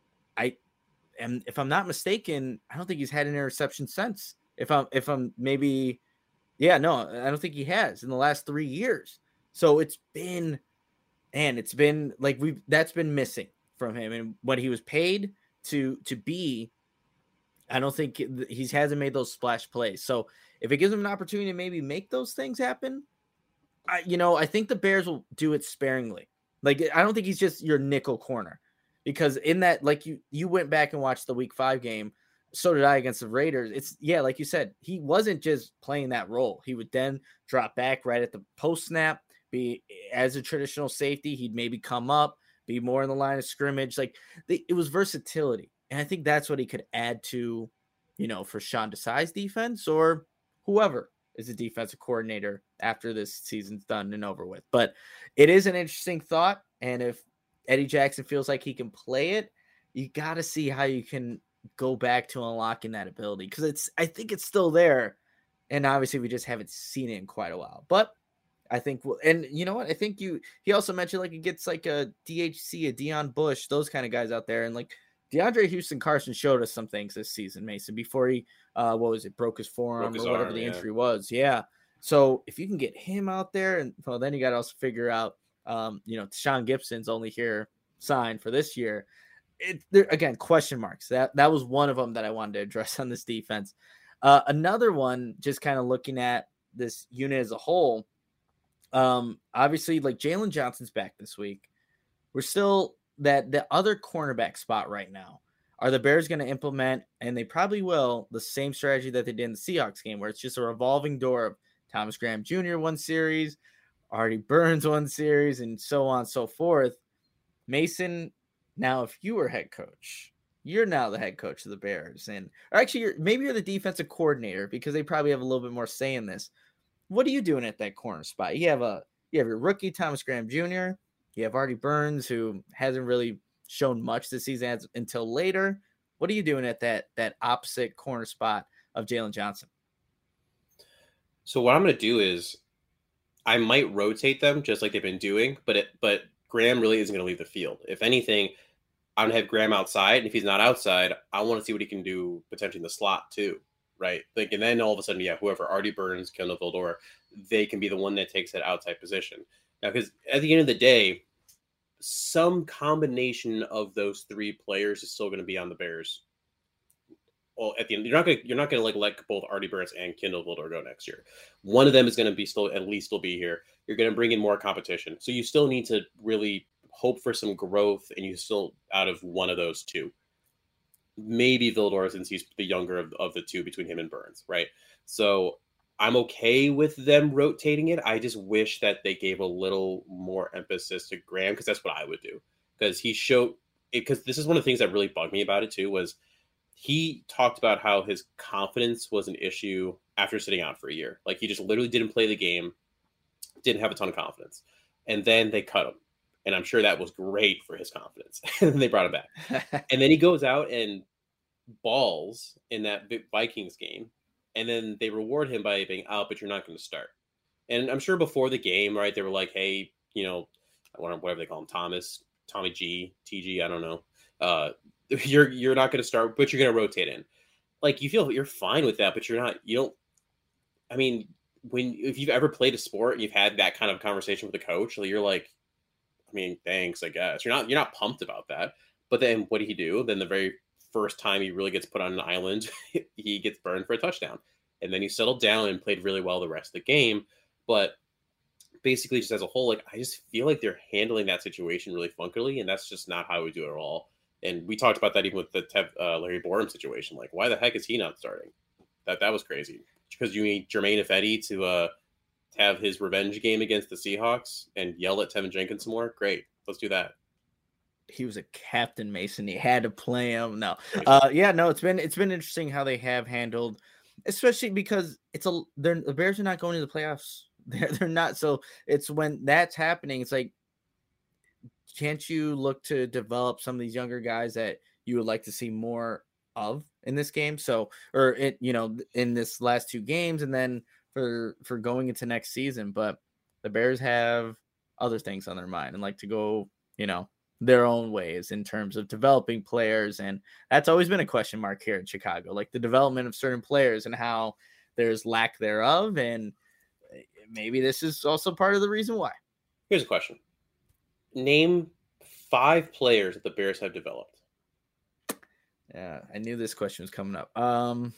I am, if I'm not mistaken, I don't think he's had an interception since. If I'm, if I'm maybe, yeah, no, I don't think he has in the last three years. So it's been, and it's been like we've that's been missing from him, and what he was paid to to be. I don't think he hasn't made those splash plays. So if it gives him an opportunity to maybe make those things happen, I, you know, I think the Bears will do it sparingly. Like, I don't think he's just your nickel corner, because in that, like you, you went back and watched the week five game. So did I against the Raiders. It's yeah, like you said, he wasn't just playing that role. He would then drop back right at the post snap, be as a traditional safety. He'd maybe come up, be more in the line of scrimmage. Like they, it was versatility. And I think that's what he could add to, you know, for Sean Desai's defense or whoever is a defensive coordinator after this season's done and over with. But it is an interesting thought. And if Eddie Jackson feels like he can play it, you got to see how you can go back to unlocking that ability. Because it's, I think it's still there. And obviously we just haven't seen it in quite a while. But I think, we'll, and you know what? I think you, he also mentioned like it gets like a D H C, a Deion Bush, those kind of guys out there. And like, DeAndre Houston Carson showed us some things this season, Mason, before he, uh, what was it, broke his forearm broke his or whatever arm, the yeah. injury was. Yeah. So if you can get him out there, and well, then you got to also figure out, um, you know, Sean Gibson's only here signed for this year. It there again, question marks. That that was one of them that I wanted to address on this defense. Uh, another one, just kind of looking at this unit as a whole. Um, obviously, like Jalen Johnson's back this week. We're still. That the other cornerback spot right now, Are the Bears going to implement, and they probably will, the same strategy that they did in the Seahawks game, where it's just a revolving door of Thomas Graham Junior one series, Artie Burns one series, and so on and so forth? Mason, now if you were head coach, you're now the head coach of the Bears, and or actually, you're, maybe you're the defensive coordinator because they probably have a little bit more say in this. What are you doing at that corner spot? You have a you have your rookie Thomas Graham Junior You have Artie Burns, who hasn't really shown much this season as, until later. What are you doing at that that opposite corner spot of Jalen Johnson? So what I'm going to do is I might rotate them just like they've been doing, but it, but Graham really isn't going to leave the field. If anything, I'm going to have Graham outside, and if he's not outside, I want to see what he can do potentially in the slot too, right? Like, and then all of a sudden, yeah, whoever, Artie Burns, Kendall Vildor, they can be the one that takes that outside position. Now, because at the end of the day, some combination of those three players is still going to be on the Bears. Well, at the end, you're not going to you're not going to like let both Artie Burns and Kendall Vildor go next year. One of them is going to be still at least still be here. You're going to bring in more competition, so you still need to really hope for some growth, and you still out of one of those two. Maybe Vildor, since he's the younger of, of the two between him and Burns, right? So I'm okay with them rotating it. I just wish that they gave a little more emphasis to Graham, because that's what I would do. Because he showed it, because this is one of the things that really bugged me about it too, was he talked about how his confidence was an issue after sitting out for a year. Like, he just literally didn't play the game, didn't have a ton of confidence. And then they cut him. And I'm sure that was great for his confidence. And then they brought him back. And then he goes out and balls in that Vikings game. And then they reward him by being out, but you're not going to start. And I'm sure before the game, right, they were like, hey, you know, whatever they call him, Thomas, Tommy G, T G, I don't know. Uh, you're you're not going to start, but you're going to rotate in. Like, you feel you're fine with that, but you're not, you don't, I mean, when, if you've ever played a sport and you've had that kind of conversation with a coach, you're like, I mean, thanks, I guess. You're not, you're not pumped about that. But then what did he do? Then the very first time he really gets put on an island, he gets burned for a touchdown. And then he settled down and played really well the rest of the game. But basically, just as a whole, like, I just feel like they're handling that situation really funkily, and that's just not how we do it at all. And we talked about that even with the Tev, uh, Larry Borum situation. Like, why the heck is he not starting? That that was crazy. Because you need Jermaine Ifedi to uh, have his revenge game against the Seahawks and yell at Tevin Jenkins some more? Great. Let's do that. He was a captain, Mason. He had to play him. No. Uh, yeah, no, it's been it's been interesting how they have handled, especially because it's a they're the Bears are not going to the playoffs. They're they're not. So it's when that's happening, it's like, can't you look to develop some of these younger guys that you would like to see more of in this game? So, or it, you know, in this last two games, and then for for going into next season. But the Bears have other things on their mind and like to go, you know, their own ways in terms of developing players. And that's always been a question mark here in Chicago, like the development of certain players and how there's lack thereof. And maybe this is also part of the reason why. Here's a question. Name five players that the Bears have developed. Yeah, I knew this question was coming up. Um,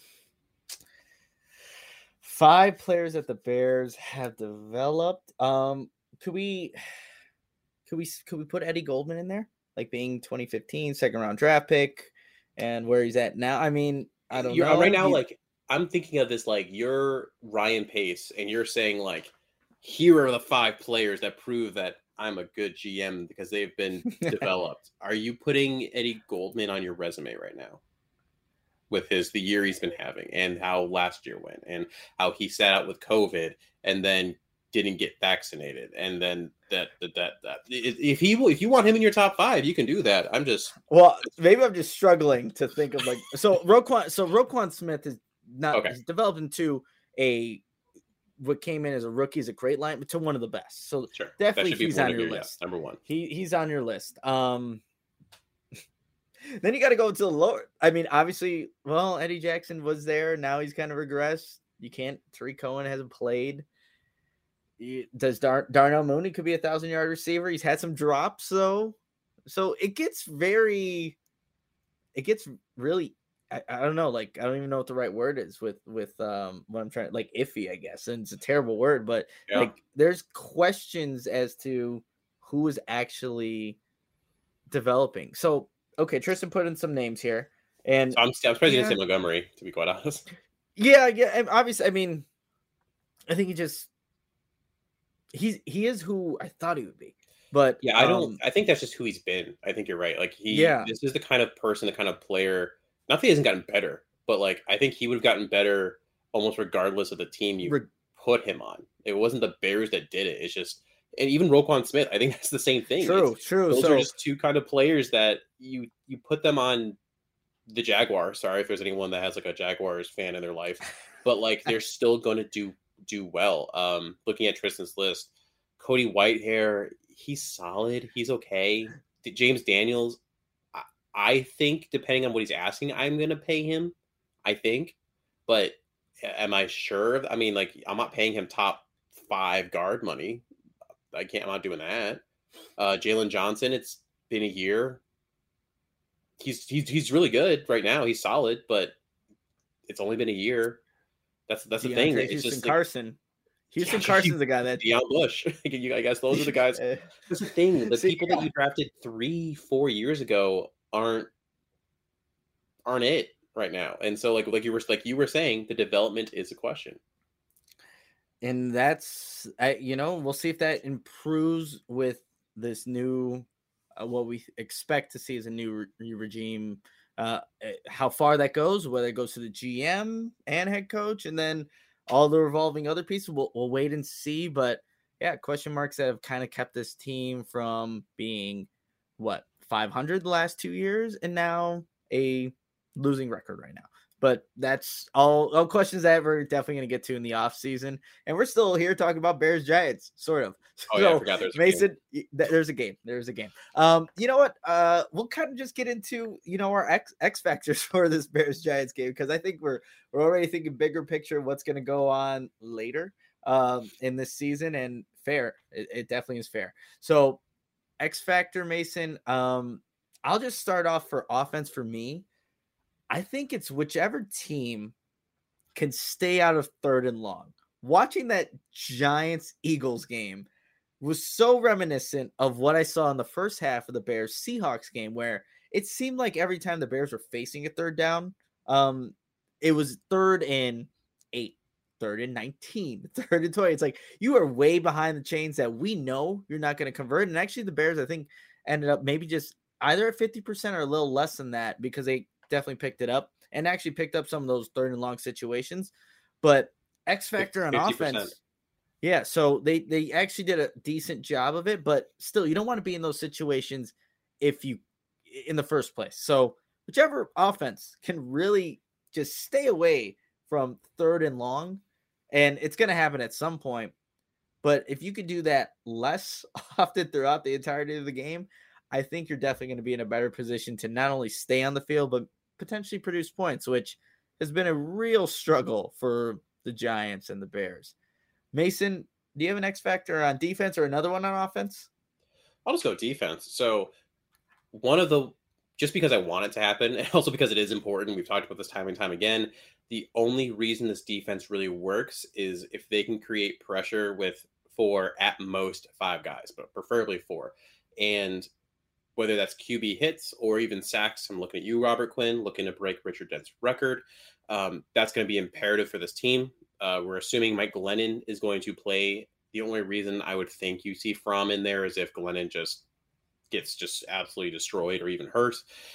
five players that the Bears have developed. Um, could we... Could we could we put Eddie Goldman in there, like being twenty fifteen second round draft pick, and where he's at now? I mean, I don't you're, know. Right now, he, like I'm thinking of this, like you're Ryan Pace, and you're saying like, here are the five players that prove that I'm a good G M because they've been developed. Are you putting Eddie Goldman on your resume right now? With his the year he's been having, and how last year went, and how he sat out with COVID, and then didn't get vaccinated, and then that that that, that if he if you want him in your top five, you can do that. I'm just well, maybe I'm just struggling to think of like so Roquan. So Roquan Smith is not okay. He's developed into a what came in as a rookie is a great line, but to one of the best. So sure. definitely he's on your, your list. Yeah, number one. He he's on your list. Um, then you got to go to the lower. I mean, obviously, well, Eddie Jackson was there. Now he's kind of regressed. You can't. Tariq Cohen hasn't played. Does Dar- Darnell Mooney could be a thousand yard receiver? He's had some drops though, so it gets very, it gets really, I, I don't know, like I don't even know what the right word is with with um what I'm trying like iffy, I guess, and it's a terrible word, but yeah. Like there's questions as to who is actually developing. So okay, Tristan put in some names here, and so I'm, I'm surprised you yeah, didn't say Montgomery, to be quite honest. Yeah, yeah, and obviously, I mean, I think he just he's he is who I thought he would be, but Yeah, I don't. um, I think that's just who he's been. I think you're right. Like he, yeah, this is the kind of person, the kind of player. Not that he hasn't gotten better, but like I think he would have gotten better almost regardless of the team you re- put him on. It wasn't the Bears that did it. It's just, and even Roquan Smith. I think that's the same thing. true, It's, true. those So are just two kind of players that you you put them on the Jaguars. Sorry if there's anyone that has like a Jaguars fan in their life, but like they're still going to do do well. Um, looking at Tristan's list, Cody Whitehair, he's solid. He's okay. James Daniels, I, I think depending on what he's asking, I'm going to pay him. I think, but am I sure? I mean, like I'm not paying him top five guard money. I can't. I'm not doing that. Uh, Jalen Johnson, it's been a year. He's he's he's really good right now. He's solid, but it's only been a year. That's that's the DeAndre thing. It's Houston just like, Carson. Houston Yeah, Carson's the guy that Deion Bush. You- I guess those are the guys. Uh, That's the thing. The See, people yeah. that you drafted three, four years ago aren't aren't it right now. And so, like like you were like you were saying, the development is a question. and that's I, you know, we'll see if that improves with this new uh, what we expect to see as a new re- regime. Uh, eh, how far that goes, whether it goes to the G M and head coach, and then all the revolving other pieces, we'll, we'll wait and see. But yeah, question marks that have kind of kept this team from being what five hundred the last two years, and now a losing record right now. But that's all, all questions that we're definitely going to get to in the off season. And we're still here talking about Bears Giants, sort of. Oh, so, yeah, I forgot there's a Mason, y- th- there's a game. There's a game. Um, you know what? Uh, we'll kind of just get into, you know, our X X factors for this Bears Giants game, because I think we're we're already thinking bigger picture what's going to go on later um, in this season. And fair, it, it definitely is fair. So X factor, Mason. Um, I'll just start off for offense for me. I think it's whichever team can stay out of third and long. Watching that Giants Eagles game was so reminiscent of what I saw in the first half of the Bears Seahawks game, where it seemed like every time the Bears were facing a third down, um, it was third and eight, third and nineteen, third and twenty. It's like you are way behind the chains that we know you're not going to convert. And actually, the Bears, I think, ended up maybe just either at fifty percent or a little less than that, because they definitely picked it up and actually picked up some of those third and long situations. But X factor on fifty percent. offense. Yeah. So they, they actually did a decent job of it, but still you don't want to be in those situations if you in the first place. So whichever offense can really just stay away from third and long, and it's going to happen at some point. But if you could do that less often throughout the entirety of the game, I think you're definitely going to be in a better position to not only stay on the field, but potentially produce points, which has been a real struggle for the Giants and the Bears. Mason, do you have an X factor on defense or another one on offense? I'll just go defense. So one of the, just because I want it to happen, and also because it is important, we've talked about this time and time again, the only reason this defense really works is if they can create pressure with four, at most five guys, but preferably four. And whether that's Q B hits or even sacks, I'm looking at you, Robert Quinn, looking to break Richard Dent's record. Um, that's going to be imperative for this team. Uh, we're assuming Mike Glennon is going to play. The only reason I would think you see Fromm in there is if Glennon just gets just absolutely destroyed or even hurt.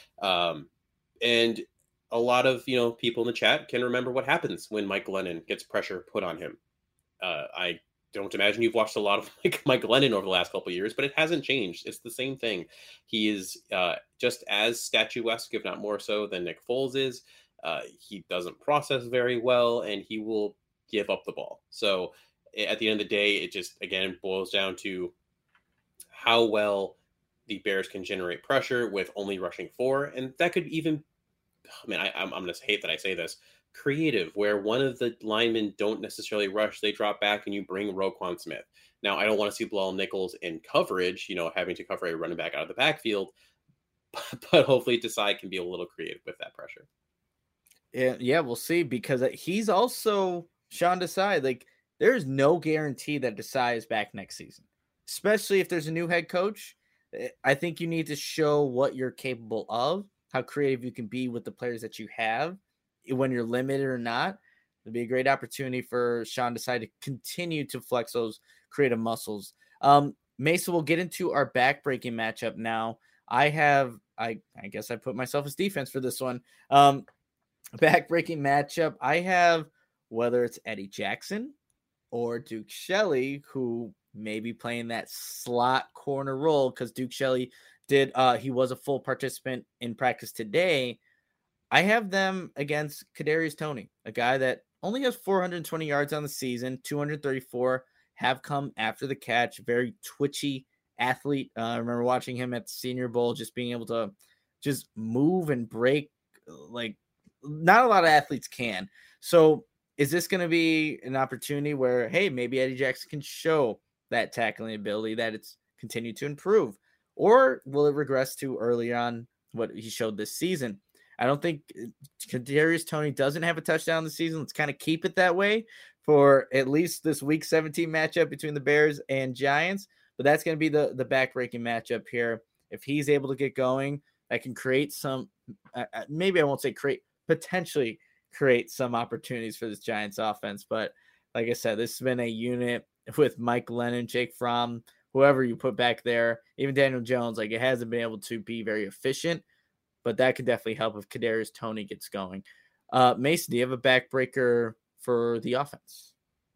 Um, and a lot of, you know, people in the chat can remember what happens when Mike Glennon gets pressure put on him. Uh, I don't imagine you've watched a lot of Mike, Mike Glennon over the last couple of years, but it hasn't changed. It's the same thing. He is uh, just as statuesque, if not more so, than Nick Foles is. Uh, he doesn't process very well, and he will give up the ball. So at the end of the day, it just, again, boils down to how well the Bears can generate pressure with only rushing four. And that could even, I mean, I, I'm, I'm going to hate that I say this, creative, where one of the linemen don't necessarily rush, they drop back and you bring Roquan Smith. Now, I don't want to see Bilal Nichols in coverage, you know, having to cover a running back out of the backfield, but, but hopefully Desai can be a little creative with that pressure. Yeah, yeah, we'll see, because he's also Sean Desai. Like, there's no guarantee that Desai is back next season, especially if there's a new head coach. I think you need to show what you're capable of, how creative you can be with the players that you have, when you're limited or not. It'd be a great opportunity for Sean Desai to continue to flex those creative muscles. Um, Mesa, we'll get into our backbreaking matchup now. I have, I, I guess I put myself as defense for this one. Um, backbreaking matchup. I have, whether it's Eddie Jackson or Duke Shelley, who may be playing that slot corner role, because Duke Shelley did, uh, he was a full participant in practice today. I have them against Kadarius Toney, a guy that only has four hundred twenty yards on the season, two hundred thirty-four have come after the catch. Very twitchy athlete. Uh, I remember watching him at the Senior Bowl, just being able to just move and break like not a lot of athletes can. So is this going to be an opportunity where, hey, maybe Eddie Jackson can show that tackling ability, that it's continued to improve? Or will it regress to early on what he showed this season? I don't think Kadarius Toney doesn't have a touchdown this season. Let's kind of keep it that way for at least this week seventeen matchup between the Bears and Giants. But that's going to be the, the backbreaking matchup here. If he's able to get going, that can create some, uh, maybe I won't say create, potentially create some opportunities for this Giants offense. But like I said, this has been a unit with Mike Lennon, Jake Fromm, whoever you put back there, even Daniel Jones. Like, it hasn't been able to be very efficient. But that could definitely help if Kadarius Toney gets going. Uh, Mason, do you have a backbreaker for the offense?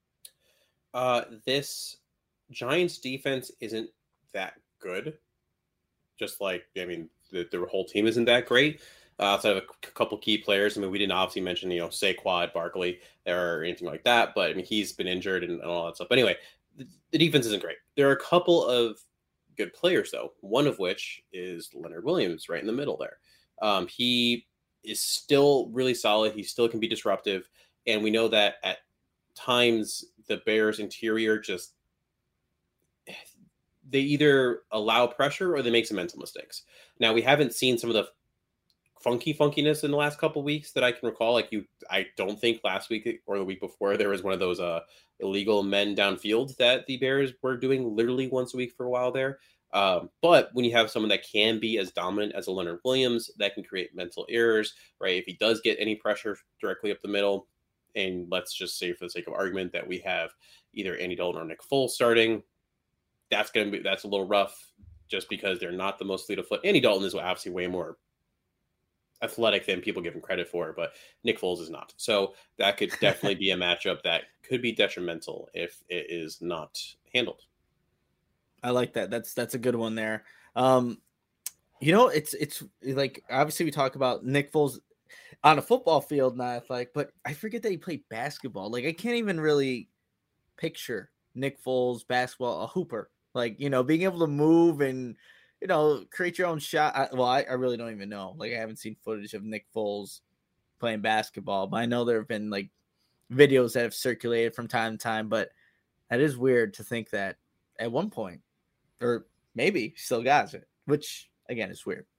Uh, this Giants defense isn't that good. Just like, I mean, the, the whole team isn't that great. Uh, outside of a couple key players. I mean, we didn't obviously mention, you know, Saquon Barkley or anything like that, but I mean, he's been injured and, and all that stuff. But anyway, the, the defense isn't great. There are a couple of good players, though, one of which is Leonard Williams right in the middle there. Um, he is still really solid. He still can be disruptive. And we know that at times the Bears interior just, they either allow pressure or they make some mental mistakes. Now, we haven't seen some of the funky funkiness in the last couple of weeks that I can recall. Like you, I don't think last week or the week before there was one of those uh, illegal men downfield that the Bears were doing literally once a week for a while there. Um, but when you have someone that can be as dominant as a Leonard Williams, that can create mental errors, right? If he does get any pressure directly up the middle, and let's just say for the sake of argument that we have either Andy Dalton or Nick Foles starting, that's going to be, that's a little rough just because they're not the most fleet of foot. Andy Dalton is obviously way more athletic than people give him credit for, but Nick Foles is not. So that could definitely be a matchup that could be detrimental if it is not handled. I like that. That's that's a good one there. Um, you know, it's it's like obviously we talk about Nick Foles on a football field, not athletic, but I forget that he played basketball. Like I can't even really picture Nick Foles basketball, a hooper. Like, you know, being able to move and, you know, create your own shot. I, well, I, I really don't even know. Like I haven't seen footage of Nick Foles playing basketball, but I know there have been like videos that have circulated from time to time. But that is weird to think that at one point, or maybe still got it, which again is weird.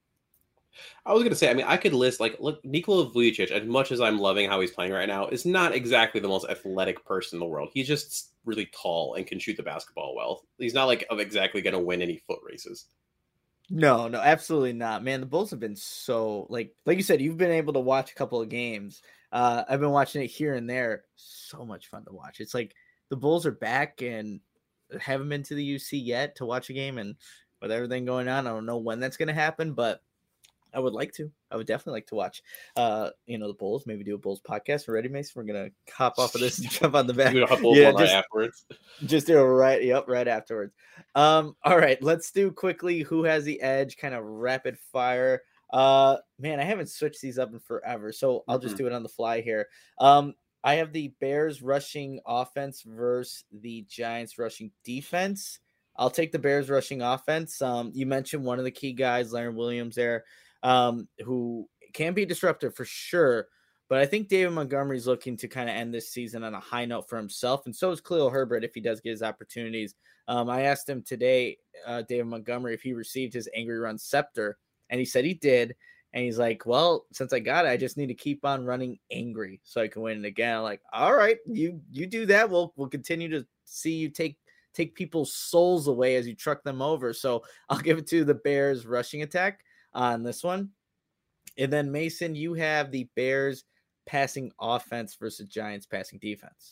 I was going to say, I mean, I could list like, look, Nikola Vujic, as much as I'm loving how he's playing right now, is not exactly the most athletic person in the world. He's just really tall and can shoot the basketball well. He's not like exactly going to win any foot races. No, no, absolutely not, man. The Bulls have been so like, like you said, you've been able to watch a couple of games. Uh, I've been watching it here and there. So much fun to watch. It's like the Bulls are back and haven't been to the U C yet to watch a game, and with everything going on, I don't know when that's going to happen, but I would like to. I would definitely like to watch, uh, you know, the Bulls. Maybe do a Bulls podcast. We're ready, Mason? We're gonna hop off of this and jump on the back. Yeah, just, right afterwards. Just do it right. Yep, right afterwards. Um, all right, let's do quickly who has the edge, kind of rapid fire. Uh, man, I haven't switched these up in forever, so I'll just mm-hmm. do it on the fly here. Um, I have the Bears rushing offense versus the Giants rushing defense. I'll take the Bears rushing offense. Um, you mentioned one of the key guys, Leonard Williams, there. Um, who can be disruptive for sure. But I think David Montgomery is looking to kind of end this season on a high note for himself. And so is Khalil Herbert if he does get his opportunities. Um, I asked him today, uh, David Montgomery, if he received his Angry Run Scepter. And he said he did. And he's like, well, since I got it, I just need to keep on running angry so I can win it again. I'm like, all right, you you do that. We'll we'll continue to see you take take people's souls away as you truck them over. So I'll give it to the Bears rushing attack on this one. And then Mason, you have the Bears passing offense versus Giants passing defense.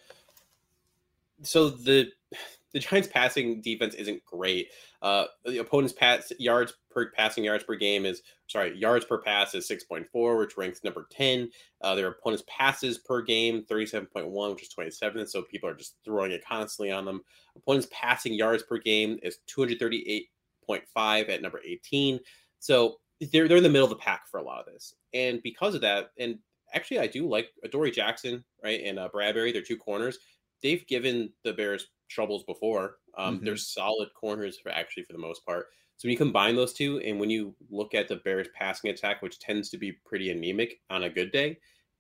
So the the Giants passing defense isn't great. Uh, the opponent's pass yards per passing yards per game is sorry yards per pass is six point four, which ranks number ten. Uh, their opponent's passes per game thirty-seven point one, which is twenty-seventh. So people are just throwing it constantly on them. Opponent's passing yards per game is two thirty-eight point five at number eighteen. So they're they're in the middle of the pack for a lot of this, and because of that, and actually I do like Adoree Jackson, right, and uh, Bradbury. They're two corners. They've given the Bears troubles before. Um, mm-hmm. They're solid corners for actually for the most part. So when you combine those two, and when you look at the Bears passing attack, which tends to be pretty anemic on a good day,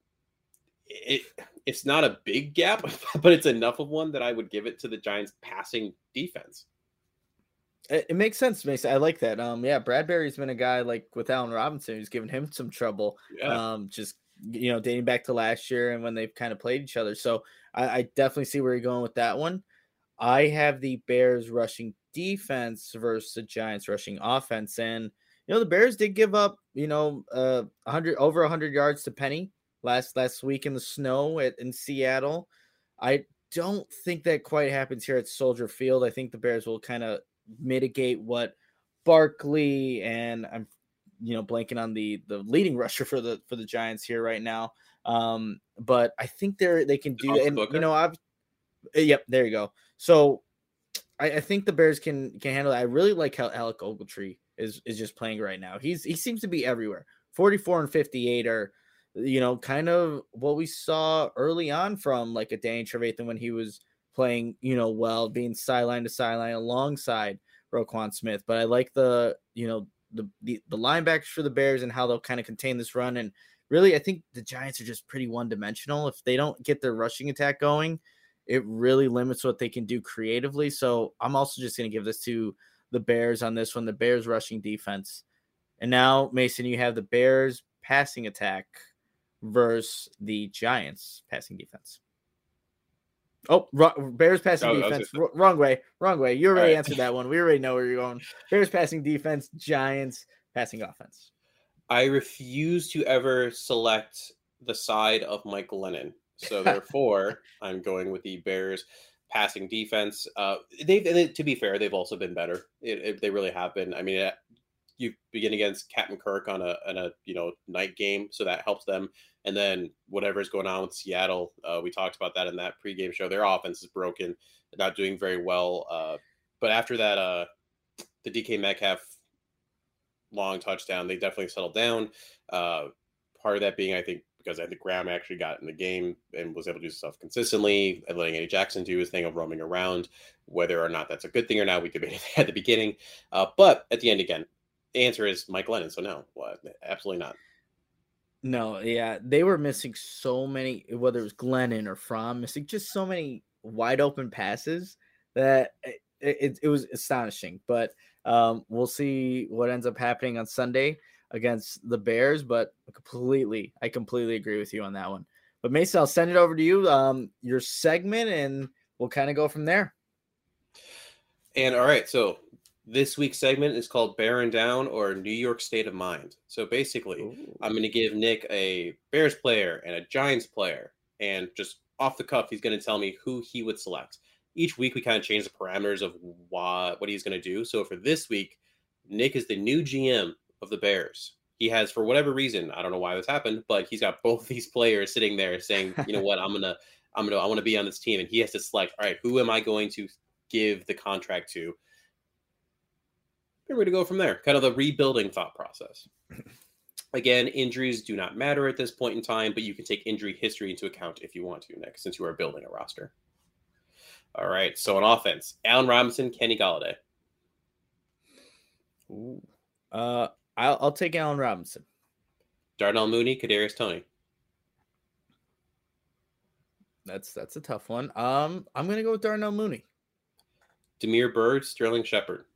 it it's not a big gap, but it's enough of one that I would give it to the Giants passing defense. It, it makes sense, Mason. I like that. Um, yeah, Bradbury's been a guy like with Allen Robinson who's given him some trouble. Yeah. Um, just you know, dating back to last year and when they've kind of played each other. So I, I definitely see where you're going with that one. I have the Bears rushing defense versus the Giants rushing offense. And, you know, the Bears did give up, you know, uh, one hundred over one hundred yards to Penny last last week in the snow at, in Seattle. I don't think that quite happens here at Soldier Field. I think the Bears will kind of mitigate what Barkley and I'm you know, blanking on the the leading rusher for the for the Giants here right now. Um, but I think they're they can do that. And you know, I've yep, there you go. So I, I think the Bears can can handle it. I really like how Alec Ogletree is is just playing right now. He's he seems to be everywhere. forty-four and fifty-eight are, you know, kind of what we saw early on from like a Danny Trevathan when he was playing, you know, well, being sideline to sideline alongside Roquan Smith. But I like the, you know, The, the the linebackers for the Bears and how they'll kind of contain this run. And really, I think the Giants are just pretty one-dimensional. If they don't get their rushing attack going, it really limits what they can do creatively. So I'm also just going to give this to the Bears on this one, the Bears rushing defense. And now, Mason, you have the Bears passing attack versus the Giants passing defense. Oh, Bears passing oh, defense. R- wrong way. Wrong way. You already right. answered that one. We already know where you're going. Bears passing defense, Giants passing offense. I refuse to ever select the side of Mike Glennon. So therefore, I'm going with the Bears passing defense. Uh, they've, and to be fair, they've also been better. It, it, they really have been. I mean, it, you begin against Captain Kirk on a, on a you know night game, so that helps them. And then whatever's going on with Seattle, uh, we talked about that in that pregame show. Their offense is broken. They're not doing very well. Uh, but after that, uh, the D K Metcalf long touchdown, they definitely settled down. Uh, part of that being, I think, because I think Graham actually got in the game and was able to do stuff consistently, and letting Eddie Jackson do his thing of roaming around. Whether or not that's a good thing or not, we debated at the beginning. Uh, but at the end, again, the answer is Mike Glennon. So no, well, absolutely not. No, yeah, they were missing so many, whether it was Glennon or Fromm, missing just so many wide open passes that it, it, it was astonishing. But um, we'll see what ends up happening on Sunday against the Bears. But completely, I completely agree with you on that one. But Mason, I'll send it over to you, um, your segment, and we'll kind of go from there. And all right, so this week's segment is called Bearing Down or New York State of Mind. So basically, Ooh. I'm going to give Nick a Bears player and a Giants player. And just off the cuff, he's going to tell me who he would select. Each week, we kind of change the parameters of what, what he's going to do. So for this week, Nick is the new G M of the Bears. He has, for whatever reason, I don't know why this happened, but he's got both these players sitting there saying, you know what, I'm going to, I'm going to, I want to be on this team. And he has to select, all right, who am I going to give the contract to? We're going to go from there. Kind of the rebuilding thought process. Again, injuries do not matter at this point in time, but you can take injury history into account if you want to, Nick, since you are building a roster. All right. So on offense, Allen Robinson, Kenny Golladay. Ooh. Uh, I'll, I'll take Allen Robinson. Darnell Mooney, Kadarius Toney. That's that's a tough one. Um, I'm going to go with Darnell Mooney. Damiere Byrd, Sterling Shepard.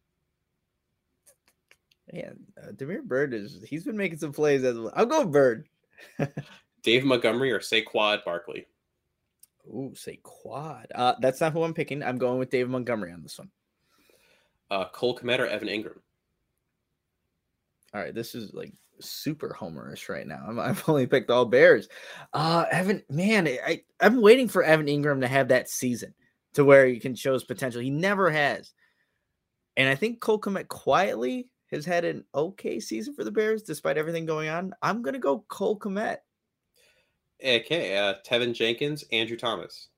Man, uh, Damiere Byrd is he's been making some plays as well. I'll go Byrd. Dave Montgomery or Saquon Barkley. Ooh, say quad. Uh, that's not who I'm picking. I'm going with David Montgomery on this one. Uh, Cole Kmet or Evan Ingram? All right, this is like super homerish right now. I'm, I've only picked all Bears. Uh, Evan, man, I, I'm waiting for Evan Ingram to have that season to where he can show his potential. He never has. And I think Cole Kmet quietly has had an okay season for the Bears despite everything going on. I'm going to go Cole Kmet. Okay, uh, Tevin Jenkins, Andrew Thomas.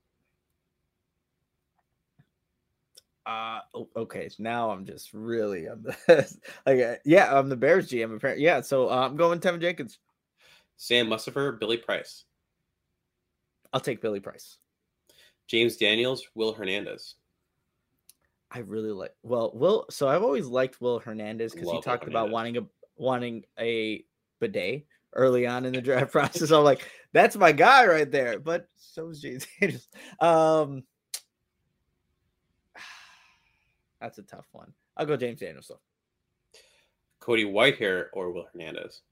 Uh, okay, so now I'm just really on the like, yeah, I'm the Bears G M apparently. Yeah, so uh, I'm going Tevin Jenkins. Sam Mustipher, Billy Price. I'll take Billy Price. James Daniels, Will Hernandez. I really like well, Will. So I've always liked Will Hernandez because he Love talked Will about Hernandez. wanting a wanting a bidet early on in the draft process. I'm like, that's my guy right there. But so is James Daniels. Um, that's a tough one. I'll go James Daniels though. Cody Whitehair or Will Hernandez.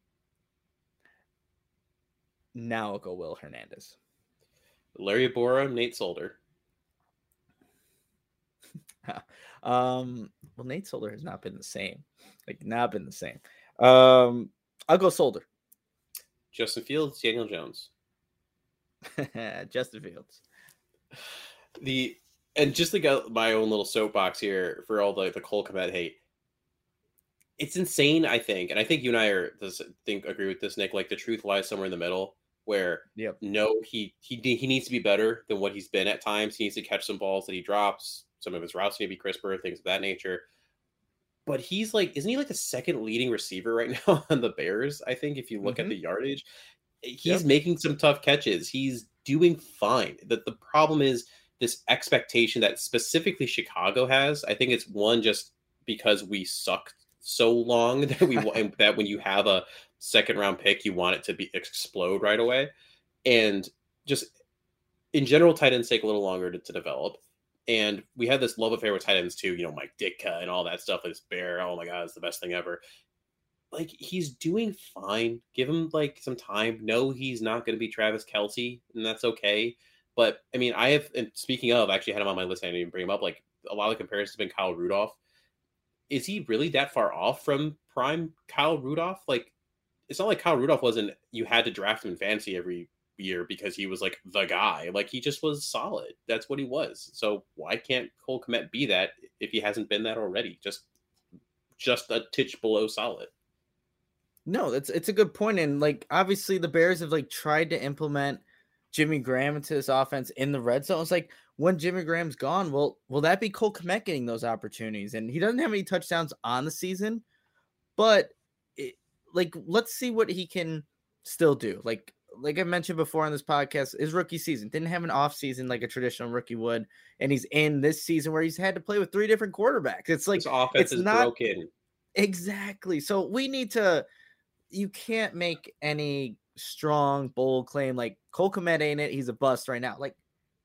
Now I'll go Will Hernandez. Larry Borum, Nate Solder. um, well, Nate Solder has not been the same. Like, not been the same. Um, I'll go Solder. Justin Fields, Daniel Jones. Justin Fields. The and just to get my own little soapbox here for all the the Cole Kmet hate. It's insane, I think, and I think you and I are does think agree with this, Nick. Like the truth lies somewhere in the middle, where Yep. no, he he he needs to be better than what he's been at times. He needs to catch some balls that he drops. Some of his routes need to be crisper, things of that nature. But he's like, isn't he like the second leading receiver right now on the Bears? I think if you look Mm-hmm. at the yardage, he's Yep. making some tough catches. He's doing fine. That the problem is this expectation that specifically Chicago has. I think it's one just because we sucked so long that we that when you have a second round pick, you want it to be explode right away, and just in general, tight ends take a little longer to, to develop. And we had this love affair with tight ends too, you know, Mike Ditka and all that stuff. This Bear, oh my god, it's the best thing ever. Like he's doing fine. Give him like some time. No, he's not going to be Travis Kelce, and that's okay. But I mean, I have. And speaking of, I actually had him on my list. I didn't even bring him up. Like a lot of the comparisons have been Kyle Rudolph. Is he really that far off from prime Kyle Rudolph? Like, it's not like Kyle Rudolph wasn't. You had to draft him in fantasy every year because he was like the guy. Like he just was solid. That's what he was. So why can't Cole Kmet be that if he hasn't been that already? Just, just a titch below solid. No, that's it's a good point. And like obviously the Bears have like tried to implement Jimmy Graham into this offense in the red zone. It's like when Jimmy Graham's gone, well, will that be Cole Kmet getting those opportunities? And he doesn't have any touchdowns on the season, but it, like let's see what he can still do. Like like I mentioned before on this podcast, his rookie season didn't have an off season like a traditional rookie would, and he's in this season where he's had to play with three different quarterbacks. It's like This offense it's is not broken. exactly. So we need to. You can't make any strong, bold claim like Cole Kmet ain't it. He's a bust right now. Like,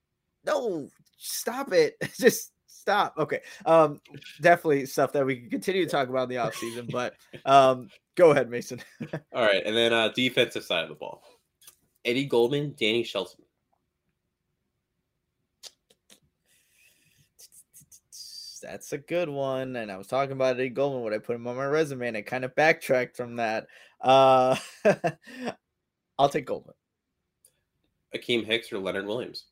no, stop it. Just stop. Okay. Um, definitely stuff that we can continue to talk about in the offseason, but um, go ahead, Mason. All right. And then uh, defensive side of the ball. Eddie Goldman, Danny Shelton. That's a good one. And I was talking about Eddie Goldman when I put him on my resume, and I kind of backtracked from that. Uh, I'll take Goldman. Akeem Hicks or Leonard Williams?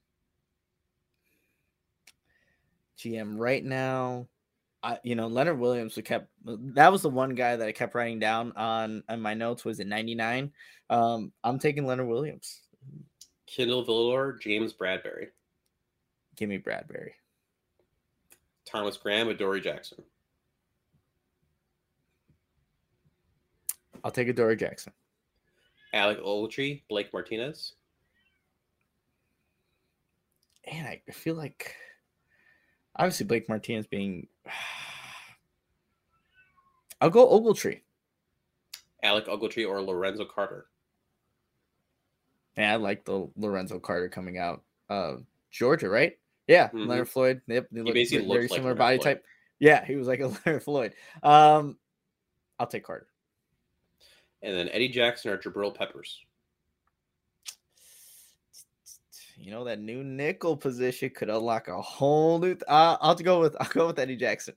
G M right now, I you know Leonard Williams. We kept that was the one guy that I kept writing down on on my notes. Was it ninety-nine? Um, I'm taking Leonard Williams. Kendall Villador, James Bradbury. Give me Bradbury. Thomas Graham or Dory Jackson? I'll take a Dory Jackson. Alec Ogletree, Blake Martinez. And I feel like obviously Blake Martinez being. I'll go Ogletree. Alec Ogletree or Lorenzo Carter? Yeah, I like the Lorenzo Carter coming out. Uh, Georgia, right? Yeah, Mhm. Leonard Floyd. Yep, they He look basically very looked like similar Leonard body Floyd. type. Yeah, he was like a Leonard Floyd. Um, I'll take Carter. And then Eddie Jackson or Jabril Peppers? you know, that new nickel position could unlock a whole new. Th- uh, I'll have to go with I'll go with Eddie Jackson.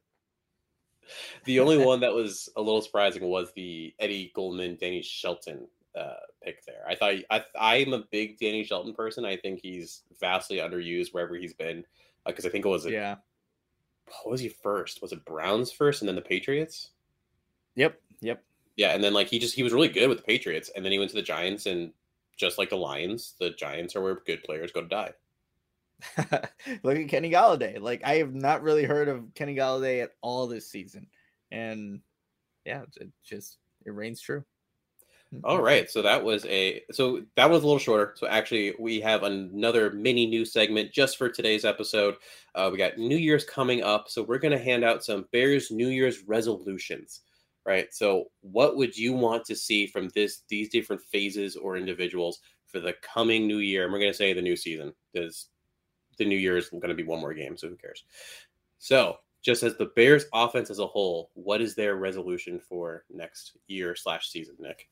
The only one that was a little surprising was the Eddie Goldman, Danny Shelton uh, pick there. I thought I, I'm a big Danny Shelton person. I think he's vastly underused wherever he's been because uh, I think it was a, yeah. What was he first? Was it Browns first and then the Patriots? Yep. Yep. Yeah, and then like he just he was really good with the Patriots, and then he went to the Giants, and just like the Lions, the Giants are where good players go to die. Look at Kenny Golladay. Like I have not really heard of Kenny Golladay at all this season, and yeah, it just it reigns true. All right, so that was a so that was a little shorter. So actually, we have another mini news segment just for today's episode. Uh, we got New Year's coming up, so we're going to hand out some Bears New Year's resolutions. Right. So what would you want to see from this, these different phases or individuals for the coming new year? And we're going to say the new season because the new year is going to be one more game. So who cares? So just as the Bears offense as a whole, what is their resolution for next year slash season, Nick?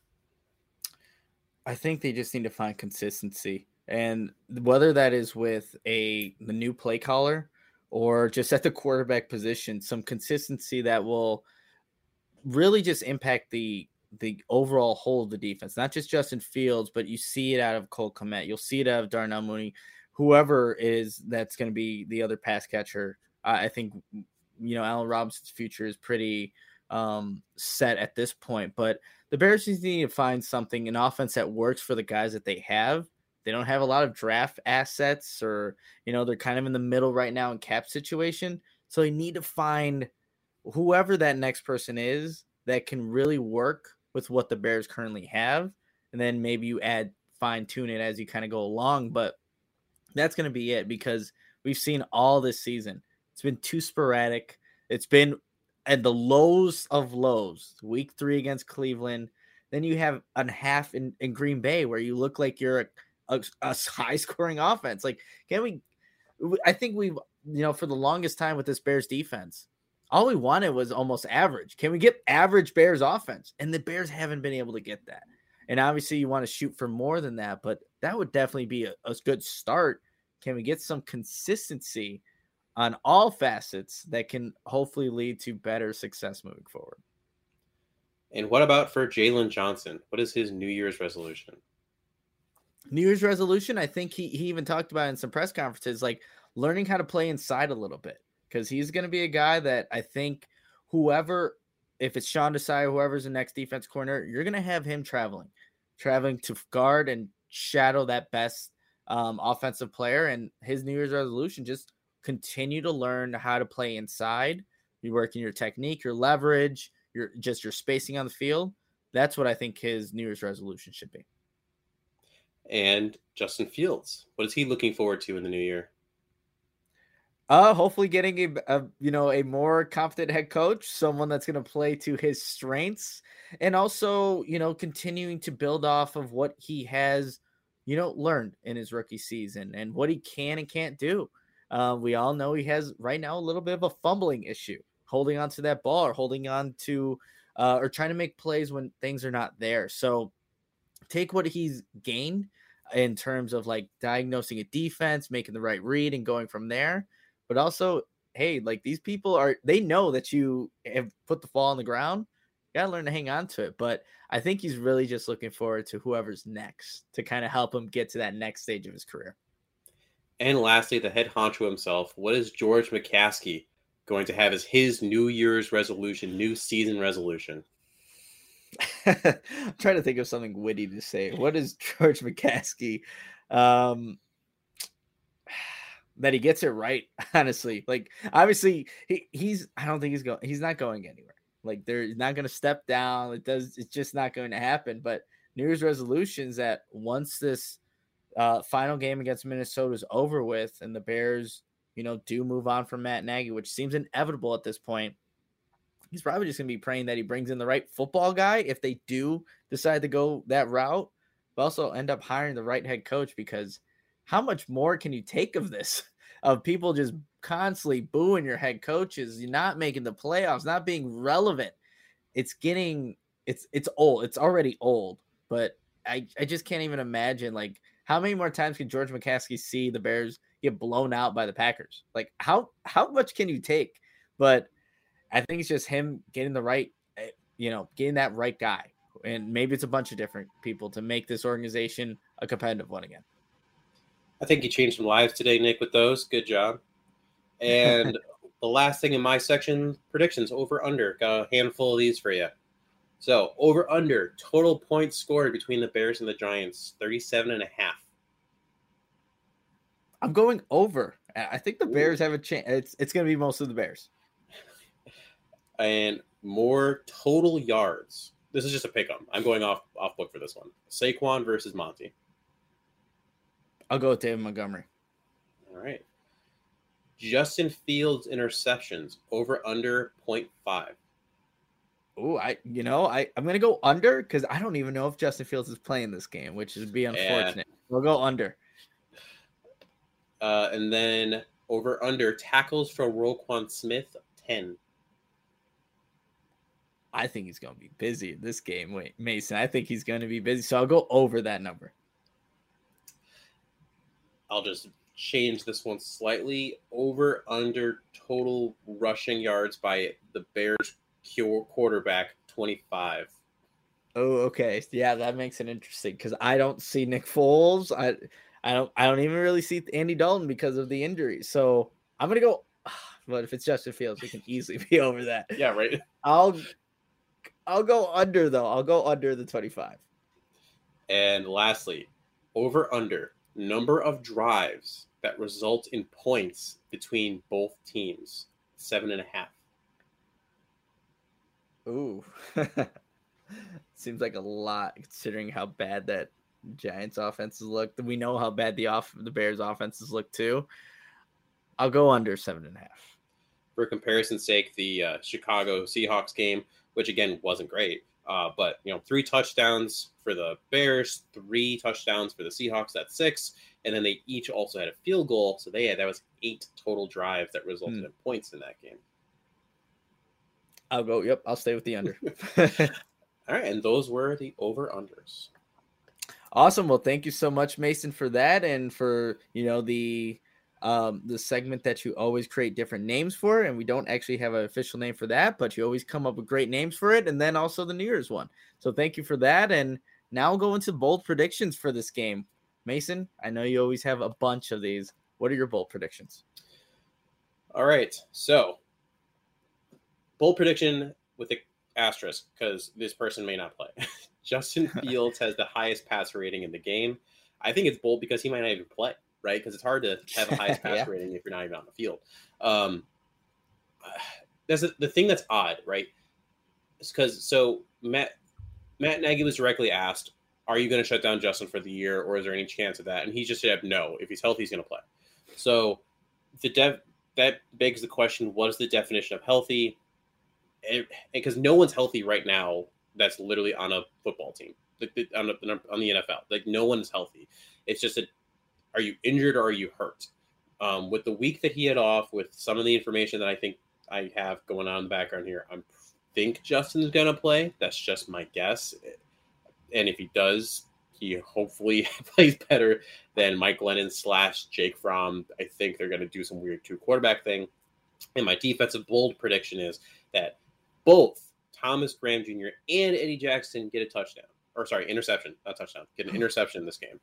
I think they just need to find consistency, and whether that is with a, the new play caller or just at the quarterback position, some consistency that will really just impact the the overall whole of the defense, not just Justin Fields, but you see it out of Cole Kmet. You'll see it out of Darnell Mooney, whoever is that's going to be the other pass catcher. Uh, I think, you know, Allen Robinson's future is pretty um, set at this point, but the Bears need to find something, an offense that works for the guys that they have. They don't have a lot of draft assets, or, you know, they're kind of in the middle right now in cap situation. So they need to find whoever that next person is that can really work with what the Bears currently have. And then maybe you add, fine tune it as you kind of go along. But that's going to be it, because we've seen all this season. It's been too sporadic. It's been at the lows of lows. Week three against Cleveland. Then you have a half in, in Green Bay where you look like you're a, a, a high scoring offense. Like, can we, I think we've, you know, for the longest time with this Bears defense, all we wanted was almost average. Can we get average Bears offense? And the Bears haven't been able to get that. And obviously you want to shoot for more than that, but that would definitely be a, a good start. Can we get some consistency on all facets that can hopefully lead to better success moving forward? And what about for Jalen Johnson? What is his New Year's resolution? New Year's resolution, I think he, he even talked about in some press conferences, like learning how to play inside a little bit. Because he's going to be a guy that I think whoever, if it's Sean Desai, whoever's the next defense corner, you're going to have him traveling, traveling to guard and shadow that best um, offensive player. And his New Year's resolution, just continue to learn how to play inside. You're working your technique, your leverage, your just your spacing on the field. That's what I think his New Year's resolution should be. And Justin Fields, what is he looking forward to in the new year? Uh, hopefully getting a, a you know a more confident head coach, someone that's going to play to his strengths, and also you know continuing to build off of what he has you know learned in his rookie season and what he can and can't do. Uh, we all know he has right now a little bit of a fumbling issue, holding on to that ball or holding on to uh, or trying to make plays when things are not there. So take what he's gained in terms of like diagnosing a defense, making the right read, and going from there. But also, hey, like these people are, they know that you have put the ball on the ground. You got to learn to hang on to it. But I think he's really just looking forward to whoever's next to kind of help him get to that next stage of his career. And lastly, the head honcho himself, what is George McCaskey going to have as his New Year's resolution, new season resolution? I'm trying to think of something witty to say. What is George McCaskey? Um, that he gets it right, honestly. Like, obviously, he, he's, I don't think he's going, he's not going anywhere. Like, they're not going to step down. It does, it's just not going to happen. But New Year's resolutions that once this uh, final game against Minnesota is over with and the Bears, you know, do move on from Matt Nagy, which seems inevitable at this point, he's probably just going to be praying that he brings in the right football guy if they do decide to go that route, but also end up hiring the right head coach, because how much more can you take of this, of people just constantly booing your head coaches, you're not making the playoffs, not being relevant? It's getting, it's, it's old. It's already old, but I, I just can't even imagine like how many more times can George McCaskey see the Bears get blown out by the Packers? Like how how much can you take? But I think it's just him getting the right, you know, getting that right guy. And maybe it's a bunch of different people to make this organization a competitive one again. I think you changed some lives today, Nick, with those. Good job. And the last thing in my section, predictions, over, under. Got a handful of these for you. So, over, under, total points scored between the Bears and the Giants, thirty-seven and a half. I'm going over. I think the Bears have a chance. It's, it's going to be mostly the Bears. And more total yards. This is just a pick 'em. I'm going off, off book for this one. Saquon versus Monty. I'll go with David Montgomery. All right. Justin Fields interceptions, over, under, point five. Oh, I you know I I'm gonna go under because I don't even know if Justin Fields is playing this game, which would be unfortunate. Yeah. We'll go under. Uh, and then over under tackles for Roquan Smith, ten. I think he's gonna be busy in this game. Wait, Mason, I think he's gonna be busy, so I'll go over that number. I'll just change this one slightly. Over under total rushing yards by the Bears quarterback, twenty-five. Oh, okay. Yeah, that makes it interesting because I don't see Nick Foles. I I don't I don't even really see Andy Dalton because of the injuries. So I'm gonna go. But if it's Justin Fields, we can easily be over that. Yeah, right. I'll I'll go under though. I'll go under the twenty-five. And lastly, over under number of drives that result in points between both teams, seven and a half. Ooh, seems like a lot considering how bad that Giants offenses look. We know how bad the off the Bears offenses look too. I'll go under seven and a half. For comparison's sake, the uh, Chicago Seahawks game, which again wasn't great, uh, but you know, three touchdowns for the Bears, three touchdowns for the Seahawks. That's six, and then they each also had a field goal, so they had that was eight total drives that resulted hmm. in points in that game. I'll go. Yep, I'll stay with the under. All right, and those were the over-unders. Awesome. Well, thank you so much, Mason, for that, and for you know the um, the segment that you always create different names for, and we don't actually have an official name for that, but you always come up with great names for it, and then also the New Year's one. So thank you for that, and now we'll go into bold predictions for this game. Mason, I know you always have a bunch of these. What are your bold predictions? All right, so. Bold prediction with the asterisk because this person may not play. Justin Fields has the highest passer rating in the game. I think it's bold because he might not even play, right? Because it's hard to have the highest passer yeah. rating if you're not even on the field. Um, that's a, the thing that's odd, right? It's because so Matt Matt Nagy was directly asked, "Are you going to shut down Justin for the year, or is there any chance of that?" And he just said, "No. If he's healthy, he's going to play." So the dev that begs the question: what is the definition of healthy? Because no one's healthy right now that's literally on a football team, like on, the, on the N F L. Like no one's healthy. It's just a, are you injured or are you hurt? Um, with the week that he had off, with some of the information that I think I have going on in the background here, I think Justin's going to play. That's just my guess. And if he does, he hopefully plays better than Mike Glennon slash Jake Fromm. I think they're going to do some weird two quarterback thing. And my defensive bold prediction is that both Thomas Graham Junior and Eddie Jackson get a touchdown. Or sorry, interception, not touchdown. Get an interception in this game.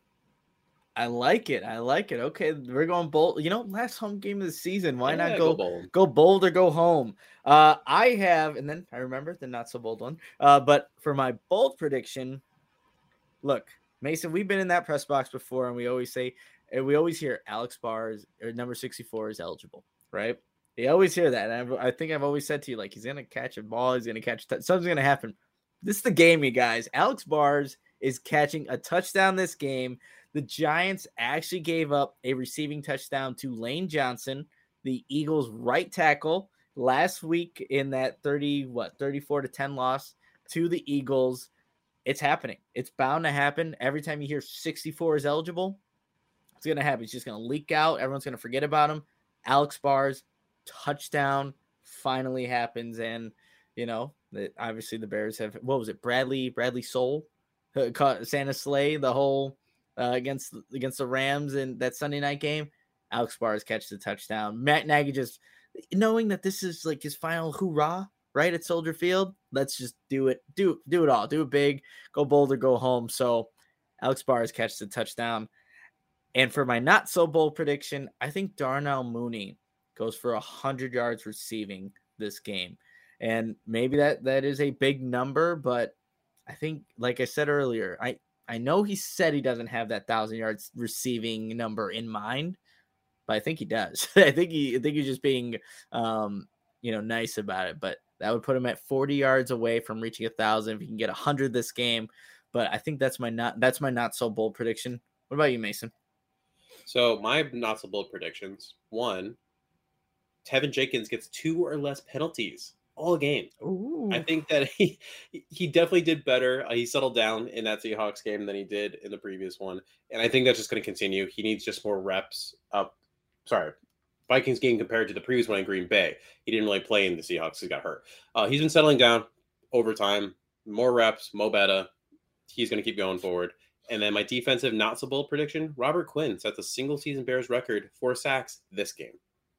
I like it. I like it. Okay, we're going bold. You know, last home game of the season. Why yeah, not go, go bold? Go bold or go home? Uh, I have, and then I remember the not so bold one. Uh, but for my bold prediction, look, Mason, we've been in that press box before, and we always say, and we always hear Alex Bars or number sixty-four is eligible, right? You always hear that. And I, I think I've always said to you, like, he's going to catch a ball. He's going to catch t- – something's going to happen. This is the game, you guys. Alex Bars is catching a touchdown this game. The Giants actually gave up a receiving touchdown to Lane Johnson, the Eagles' right tackle, last week in that thirty, what, thirty-four to ten loss to the Eagles. It's happening. It's bound to happen. Every time you hear sixty-four is eligible, it's going to happen. It's just going to leak out. Everyone's going to forget about him. Alex Bars, touchdown, finally happens. And, you know, the, obviously the Bears have, what was it, Bradley, Bradley Soul, uh, caught Santa Slay, the whole uh, against against the Rams in that Sunday night game. Alex Bars catches the touchdown. Matt Nagy just knowing that this is like his final hoorah, right, at Soldier Field. Let's just do it. Do do it all. Do it big. Go bold or go home. So Alex Bars catches the touchdown. And for my not so bold prediction, I think Darnell Mooney goes for one hundred yards receiving this game. And maybe that that is a big number, but I think, like I said earlier, I, I know he said he doesn't have that one thousand yards receiving number in mind, but I think he does. I think he I think he's just being um, you know, nice about it, but that would put him at forty yards away from reaching a thousand if he can get one hundred this game. But I think that's my not that's my not so bold prediction. What about you, Mason? So my not so bold predictions. One, Tevin Jenkins gets two or less penalties all game. Ooh. I think that he he definitely did better. Uh, he settled down in that Seahawks game than he did in the previous one. And I think that's just going to continue. He needs just more reps up. Sorry, Vikings game compared to the previous one in Green Bay. He didn't really play in the Seahawks. He got hurt. Uh, he's been settling down over time. More reps, Mo Betta. He's going to keep going forward. And then my defensive not so bold prediction, Robert Quinn sets a single season Bears record for sacks this game.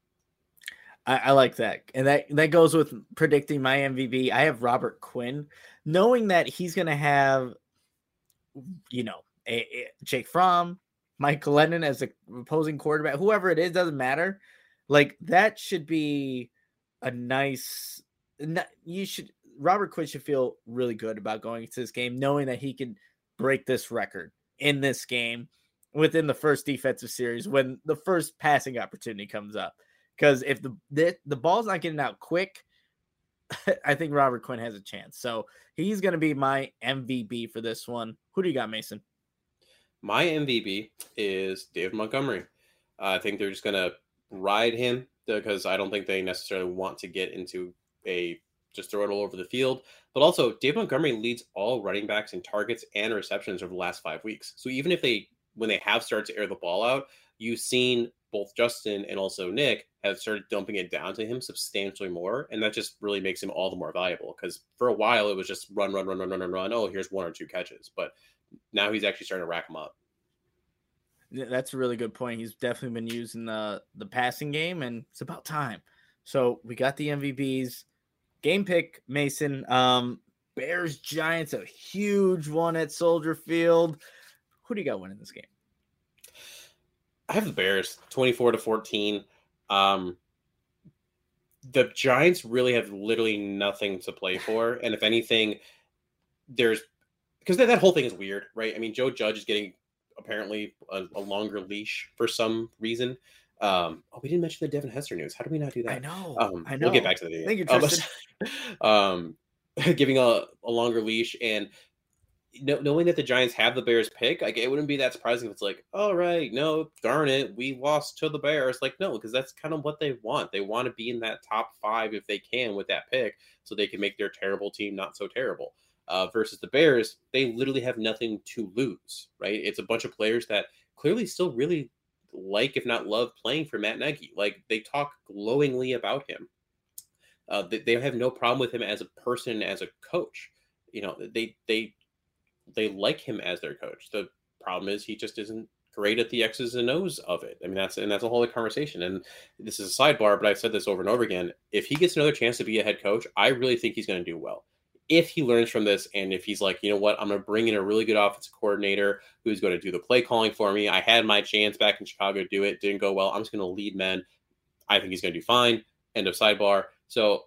I, I like that. And that, that goes with predicting my M V P. I have Robert Quinn, knowing that he's going to have, you know, a, a Jake Fromm, Mike Glennon as the opposing quarterback, whoever it is, doesn't matter. Like, that should be a nice, you should, Robert Quinn should feel really good about going into this game, knowing that he can break this record in this game within the first defensive series when the first passing opportunity comes up. Because if the, the the ball's not getting out quick, I think Robert Quinn has a chance. So he's going to be my M V P for this one. Who do you got, Mason? My M V P is David Montgomery. Uh, I think they're just going to ride him because I don't think they necessarily want to get into a just throw it all over the field. But also, David Montgomery leads all running backs in targets and receptions over the last five weeks. So even if they, when they have started to air the ball out, you've seen both Justin and also Nick have started dumping it down to him substantially more. And that just really makes him all the more valuable because for a while it was just run, run, run, run, run, run, run. Oh, here's one or two catches. But now he's actually starting to rack them up. That's a really good point. He's definitely been using the, the passing game, and it's about time. So we got the M V Ps. Game pick, Mason. Um, Bears Giants, a huge one at Soldier Field. Who do you got winning this game? I have the Bears, twenty-four to fourteen. Um, the Giants really have literally nothing to play for, and if anything, there's because that, that whole thing is weird, right? I mean, Joe Judge is getting apparently a, a longer leash for some reason. Um, oh, we didn't mention the Devin Hester news. How do we not do that? I know. Um, I know. We'll get back to the Thank you, Tristan. Um, um, giving a, a longer leash and no, knowing that the Giants have the Bears pick, like it wouldn't be that surprising if it's like, all right, no, darn it, we lost to the Bears. Like, no, because that's kind of what they want. They want to be in that top five if they can with that pick, so they can make their terrible team not so terrible. Uh, versus the Bears, they literally have nothing to lose, right? It's a bunch of players that clearly still really like, if not love, playing for Matt Nagy. Like, they talk glowingly about him. Uh, they, they have no problem with him as a person, as a coach. You know, they they they like him as their coach. The problem is he just isn't great at the X's and O's of it. I mean, that's and that's a whole other conversation. And this is a sidebar, but I've said this over and over again. If he gets another chance to be a head coach, I really think he's going to do well. If he learns from this and if he's like, you know what, I'm going to bring in a really good offensive coordinator who's going to do the play calling for me. I had my chance back in Chicago to do it. Didn't go well. I'm just going to lead men. I think he's going to do fine. End of sidebar. So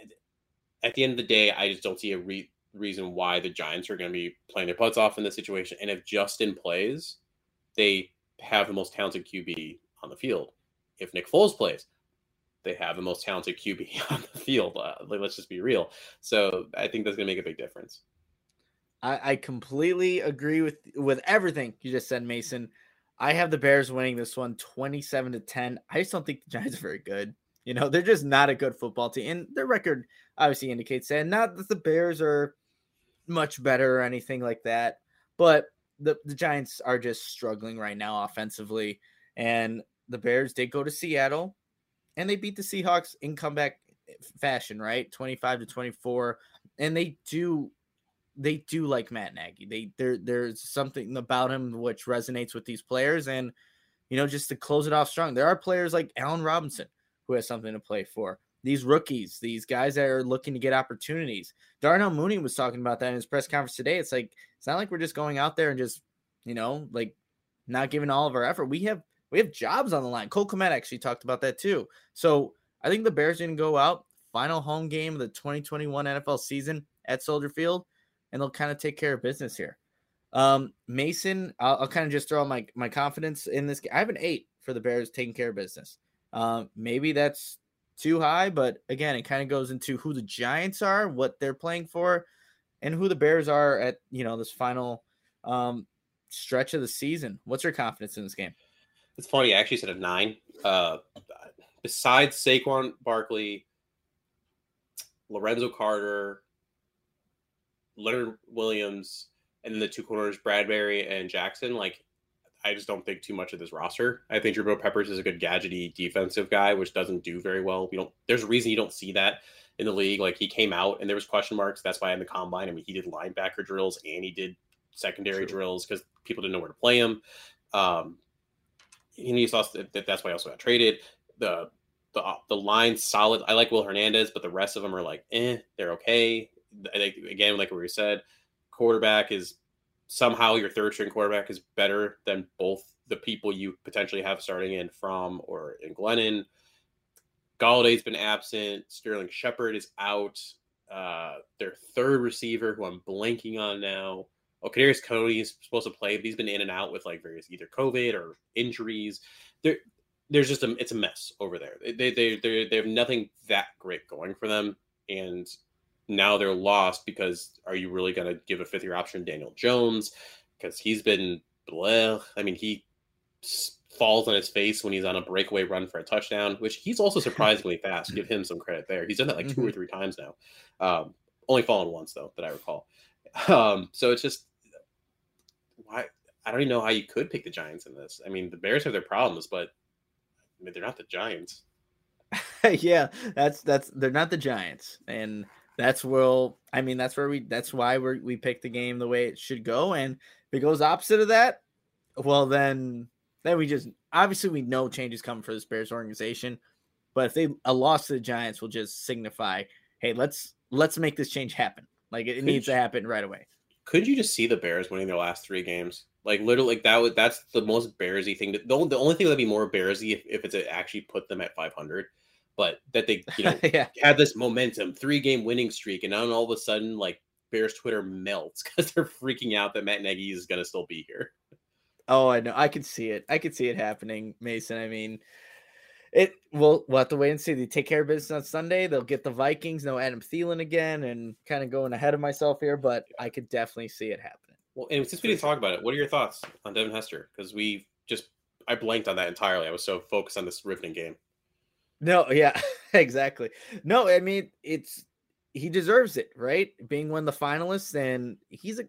at the end of the day, I just don't see a re- reason why the Giants are going to be playing their butts off in this situation. And if Justin plays, they have the most talented Q B on the field. If Nick Foles plays, they have the most talented Q B on the field. Uh, like, let's just be real. So I think that's going to make a big difference. I, I completely agree with with everything you just said, Mason. I have the Bears winning this one twenty-seven to ten. I just don't think the Giants are very good. You know, they're just not a good football team. And their record obviously indicates that. Not that the Bears are much better or anything like that, but the, the Giants are just struggling right now offensively. And the Bears did go to Seattle, and they beat the Seahawks in comeback fashion, right? twenty-five to twenty-four. And they do they do like Matt Nagy. They there there's something about him which resonates with these players, and you know, just to close it off strong, there are players like Allen Robinson who has something to play for. These rookies, these guys that are looking to get opportunities. Darnell Mooney was talking about that in his press conference today. It's like it's not like we're just going out there and just, you know, like not giving all of our effort. We have we have jobs on the line. Cole Kmet actually talked about that too. So I think the Bears didn't go out. Final home game of the twenty twenty-one N F L season at Soldier Field, and they'll kind of take care of business here. Um, Mason, I'll, I'll kind of just throw my, my confidence in this game. I have an eight for the Bears taking care of business. Um, maybe that's too high, but again, it kind of goes into who the Giants are, what they're playing for, and who the Bears are at, you know, this final um, stretch of the season. What's your confidence in this game? It's funny. I actually said a nine. Uh, besides Saquon Barkley, Lorenzo Carter, Leonard Williams, and then the two corners, Bradbury and Jackson, like, I just don't think too much of this roster. I think Jabril Peppers is a good gadgety defensive guy, which doesn't do very well. We don't. There's a reason you don't see that in the league. Like, he came out and there was question marks. That's why in the combine, I mean, he did linebacker drills and he did secondary True. drills because people didn't know where to play him. Um, and he saw that that's why he also got traded. The the the line's solid. I like Will Hernandez, but the rest of them are like, eh, they're okay. I think, again, like we said, quarterback is somehow your third string quarterback is better than both the people you potentially have starting in Fromm or in Glennon. Galladay's been absent. Sterling Shepard is out. Uh, their third receiver, who I'm blanking on now, oh, Kadarius Toney is supposed to play, but he's been in and out with like various either COVID or injuries. There, there's just a it's a mess over there. They they they they have nothing that great going for them, and now they're lost because are you really going to give a fifth year option to Daniel Jones? Because he's been blah. I mean, he falls on his face when he's on a breakaway run for a touchdown, which he's also surprisingly fast. Give him some credit there. He's done that like two or three times now. Um, only fallen once though, that I recall. Um, so it's just why I don't even know how you could pick the Giants in this. I mean, the Bears have their problems, but I mean, they're not the Giants. yeah, that's that's they're not the Giants, and that's where I mean that's where we that's why we we picked the game the way it should go. And if it goes opposite of that, well then then we just obviously we know changes coming for this Bears organization. But if they a loss to the Giants will just signify, hey, let's let's make this change happen. Like it, it needs you, to happen right away. Could you just see the Bears winning their last three games? Like literally, like that would that's the most Bearsy thing. To, the, the only thing that'd be more Bearsy if, if it's a, actually put them at five hundred. But that they, you know, yeah. had this momentum, three-game winning streak, and now all of a sudden, like, Bears Twitter melts because they're freaking out that Matt Nagy is going to still be here. Oh, I know. I could see it. I could see it happening, Mason. I mean, it. We'll, we'll have to wait and see. They take care of business on Sunday. They'll get the Vikings. No Adam Thielen again, and kind of going ahead of myself here, but I could definitely see it happening. Well, and since we didn't talk about it, what are your thoughts on Devin Hester? Because we just, I blanked on that entirely. I was so focused on this riveting game. No, yeah, exactly. No, I mean, it's he deserves it, right? Being one of the finalists, and he's a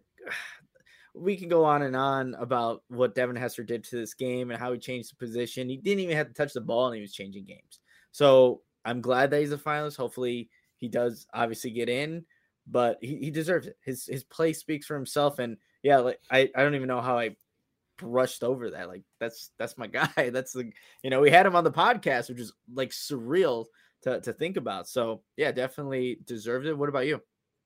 we can go on and on about what Devin Hester did to this game and how he changed the position. He didn't even have to touch the ball, and he was changing games. So I'm glad that he's a finalist. Hopefully he does obviously get in, but he, he deserves it. His his play speaks for himself. And yeah, like I, I don't even know how I brushed over that. Like that's that's my guy. That's the you know we had him on the podcast, which is like surreal to to think about. So yeah, definitely deserves it. What about you?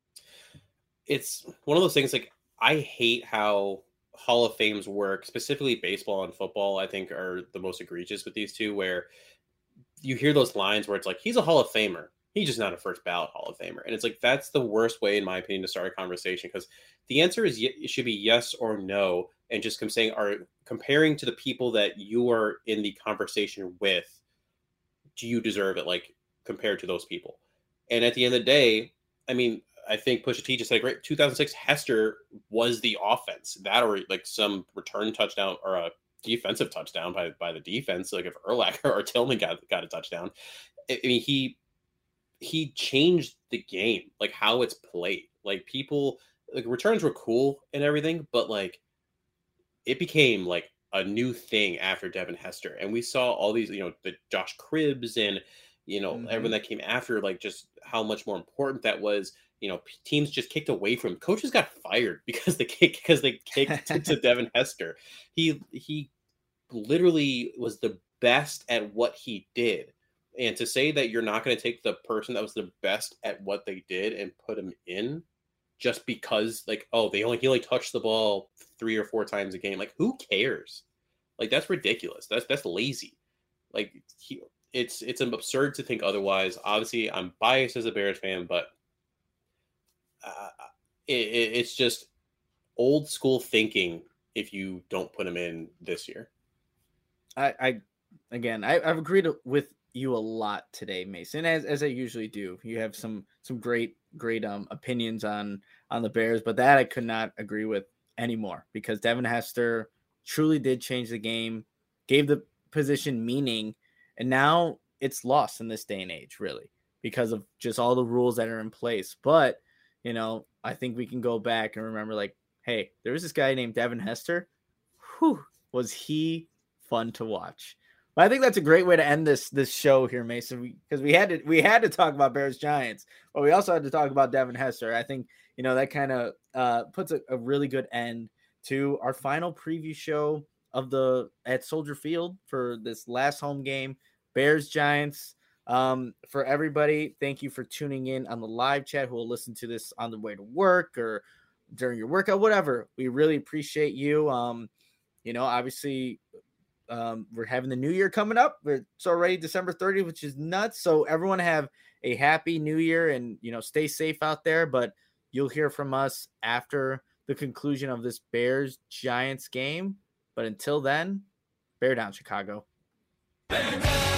It's one of those things. Like I hate how Hall of Fames work, specifically baseball and football. I think are the most egregious with these two, where you hear those lines where it's like he's a Hall of Famer. He's just not a first ballot Hall of Famer. And it's like, that's the worst way, in my opinion, to start a conversation, because the answer is, it should be yes or no. And just come saying, are comparing to the people that you are in the conversation with, do you deserve it? Like compared to those people. And at the end of the day, I mean, I think Pusha T just said, great, two thousand six Hester was the offense, that or like some return touchdown or a defensive touchdown by, by the defense. Like if Urlacher or Tillman got, got a touchdown, I mean, he, he changed the game, like how it's played. Like people, like returns were cool and everything, but like it became like a new thing after Devin Hester. And we saw all these, you know, the Josh Cribbs and, you know, mm-hmm. everyone that came after, like just how much more important that was. you know, teams just kicked away from him. Coaches got fired because they kicked because they kicked to Devin Hester. He he literally was the best at what he did. And to say that you're not going to take the person that was the best at what they did and put him in just because, like, oh, they only he only touched the ball three or four times a game. Like, who cares? Like, that's ridiculous. That's that's lazy. Like, he, it's it's absurd to think otherwise. Obviously, I'm biased as a Bears fan, but uh, it, it, it's just old school thinking if you don't put him in this year. I, I again, I, I've agreed with you a lot today, Mason, as as I usually do. You have some some great great um opinions on on the Bears, but that I could not agree with anymore because Devin Hester truly did change the game, gave the position meaning, and now it's lost in this day and age, really, because of just all the rules that are in place. But, you know, I think we can go back and remember, like, hey, there was this guy named Devin Hester. Whew, was he fun to watch. But I think that's a great way to end this this show here, Mason, because we, we had to we had to talk about Bears Giants, but we also had to talk about Devin Hester. I think, you know, that kind of uh, puts a, a really good end to our final preview show of the at Soldier Field for this last home game, Bears Giants. Um, for everybody, thank you for tuning in on the live chat who will listen to this on the way to work or during your workout, whatever. We really appreciate you. Um, you know, obviously, um, we're having the new year coming up. It's already December thirtieth, which is nuts. So everyone have a happy new year and, you know, stay safe out there. But you'll hear from us after the conclusion of this Bears Giants game. But until then, bear down, Chicago. Bear down.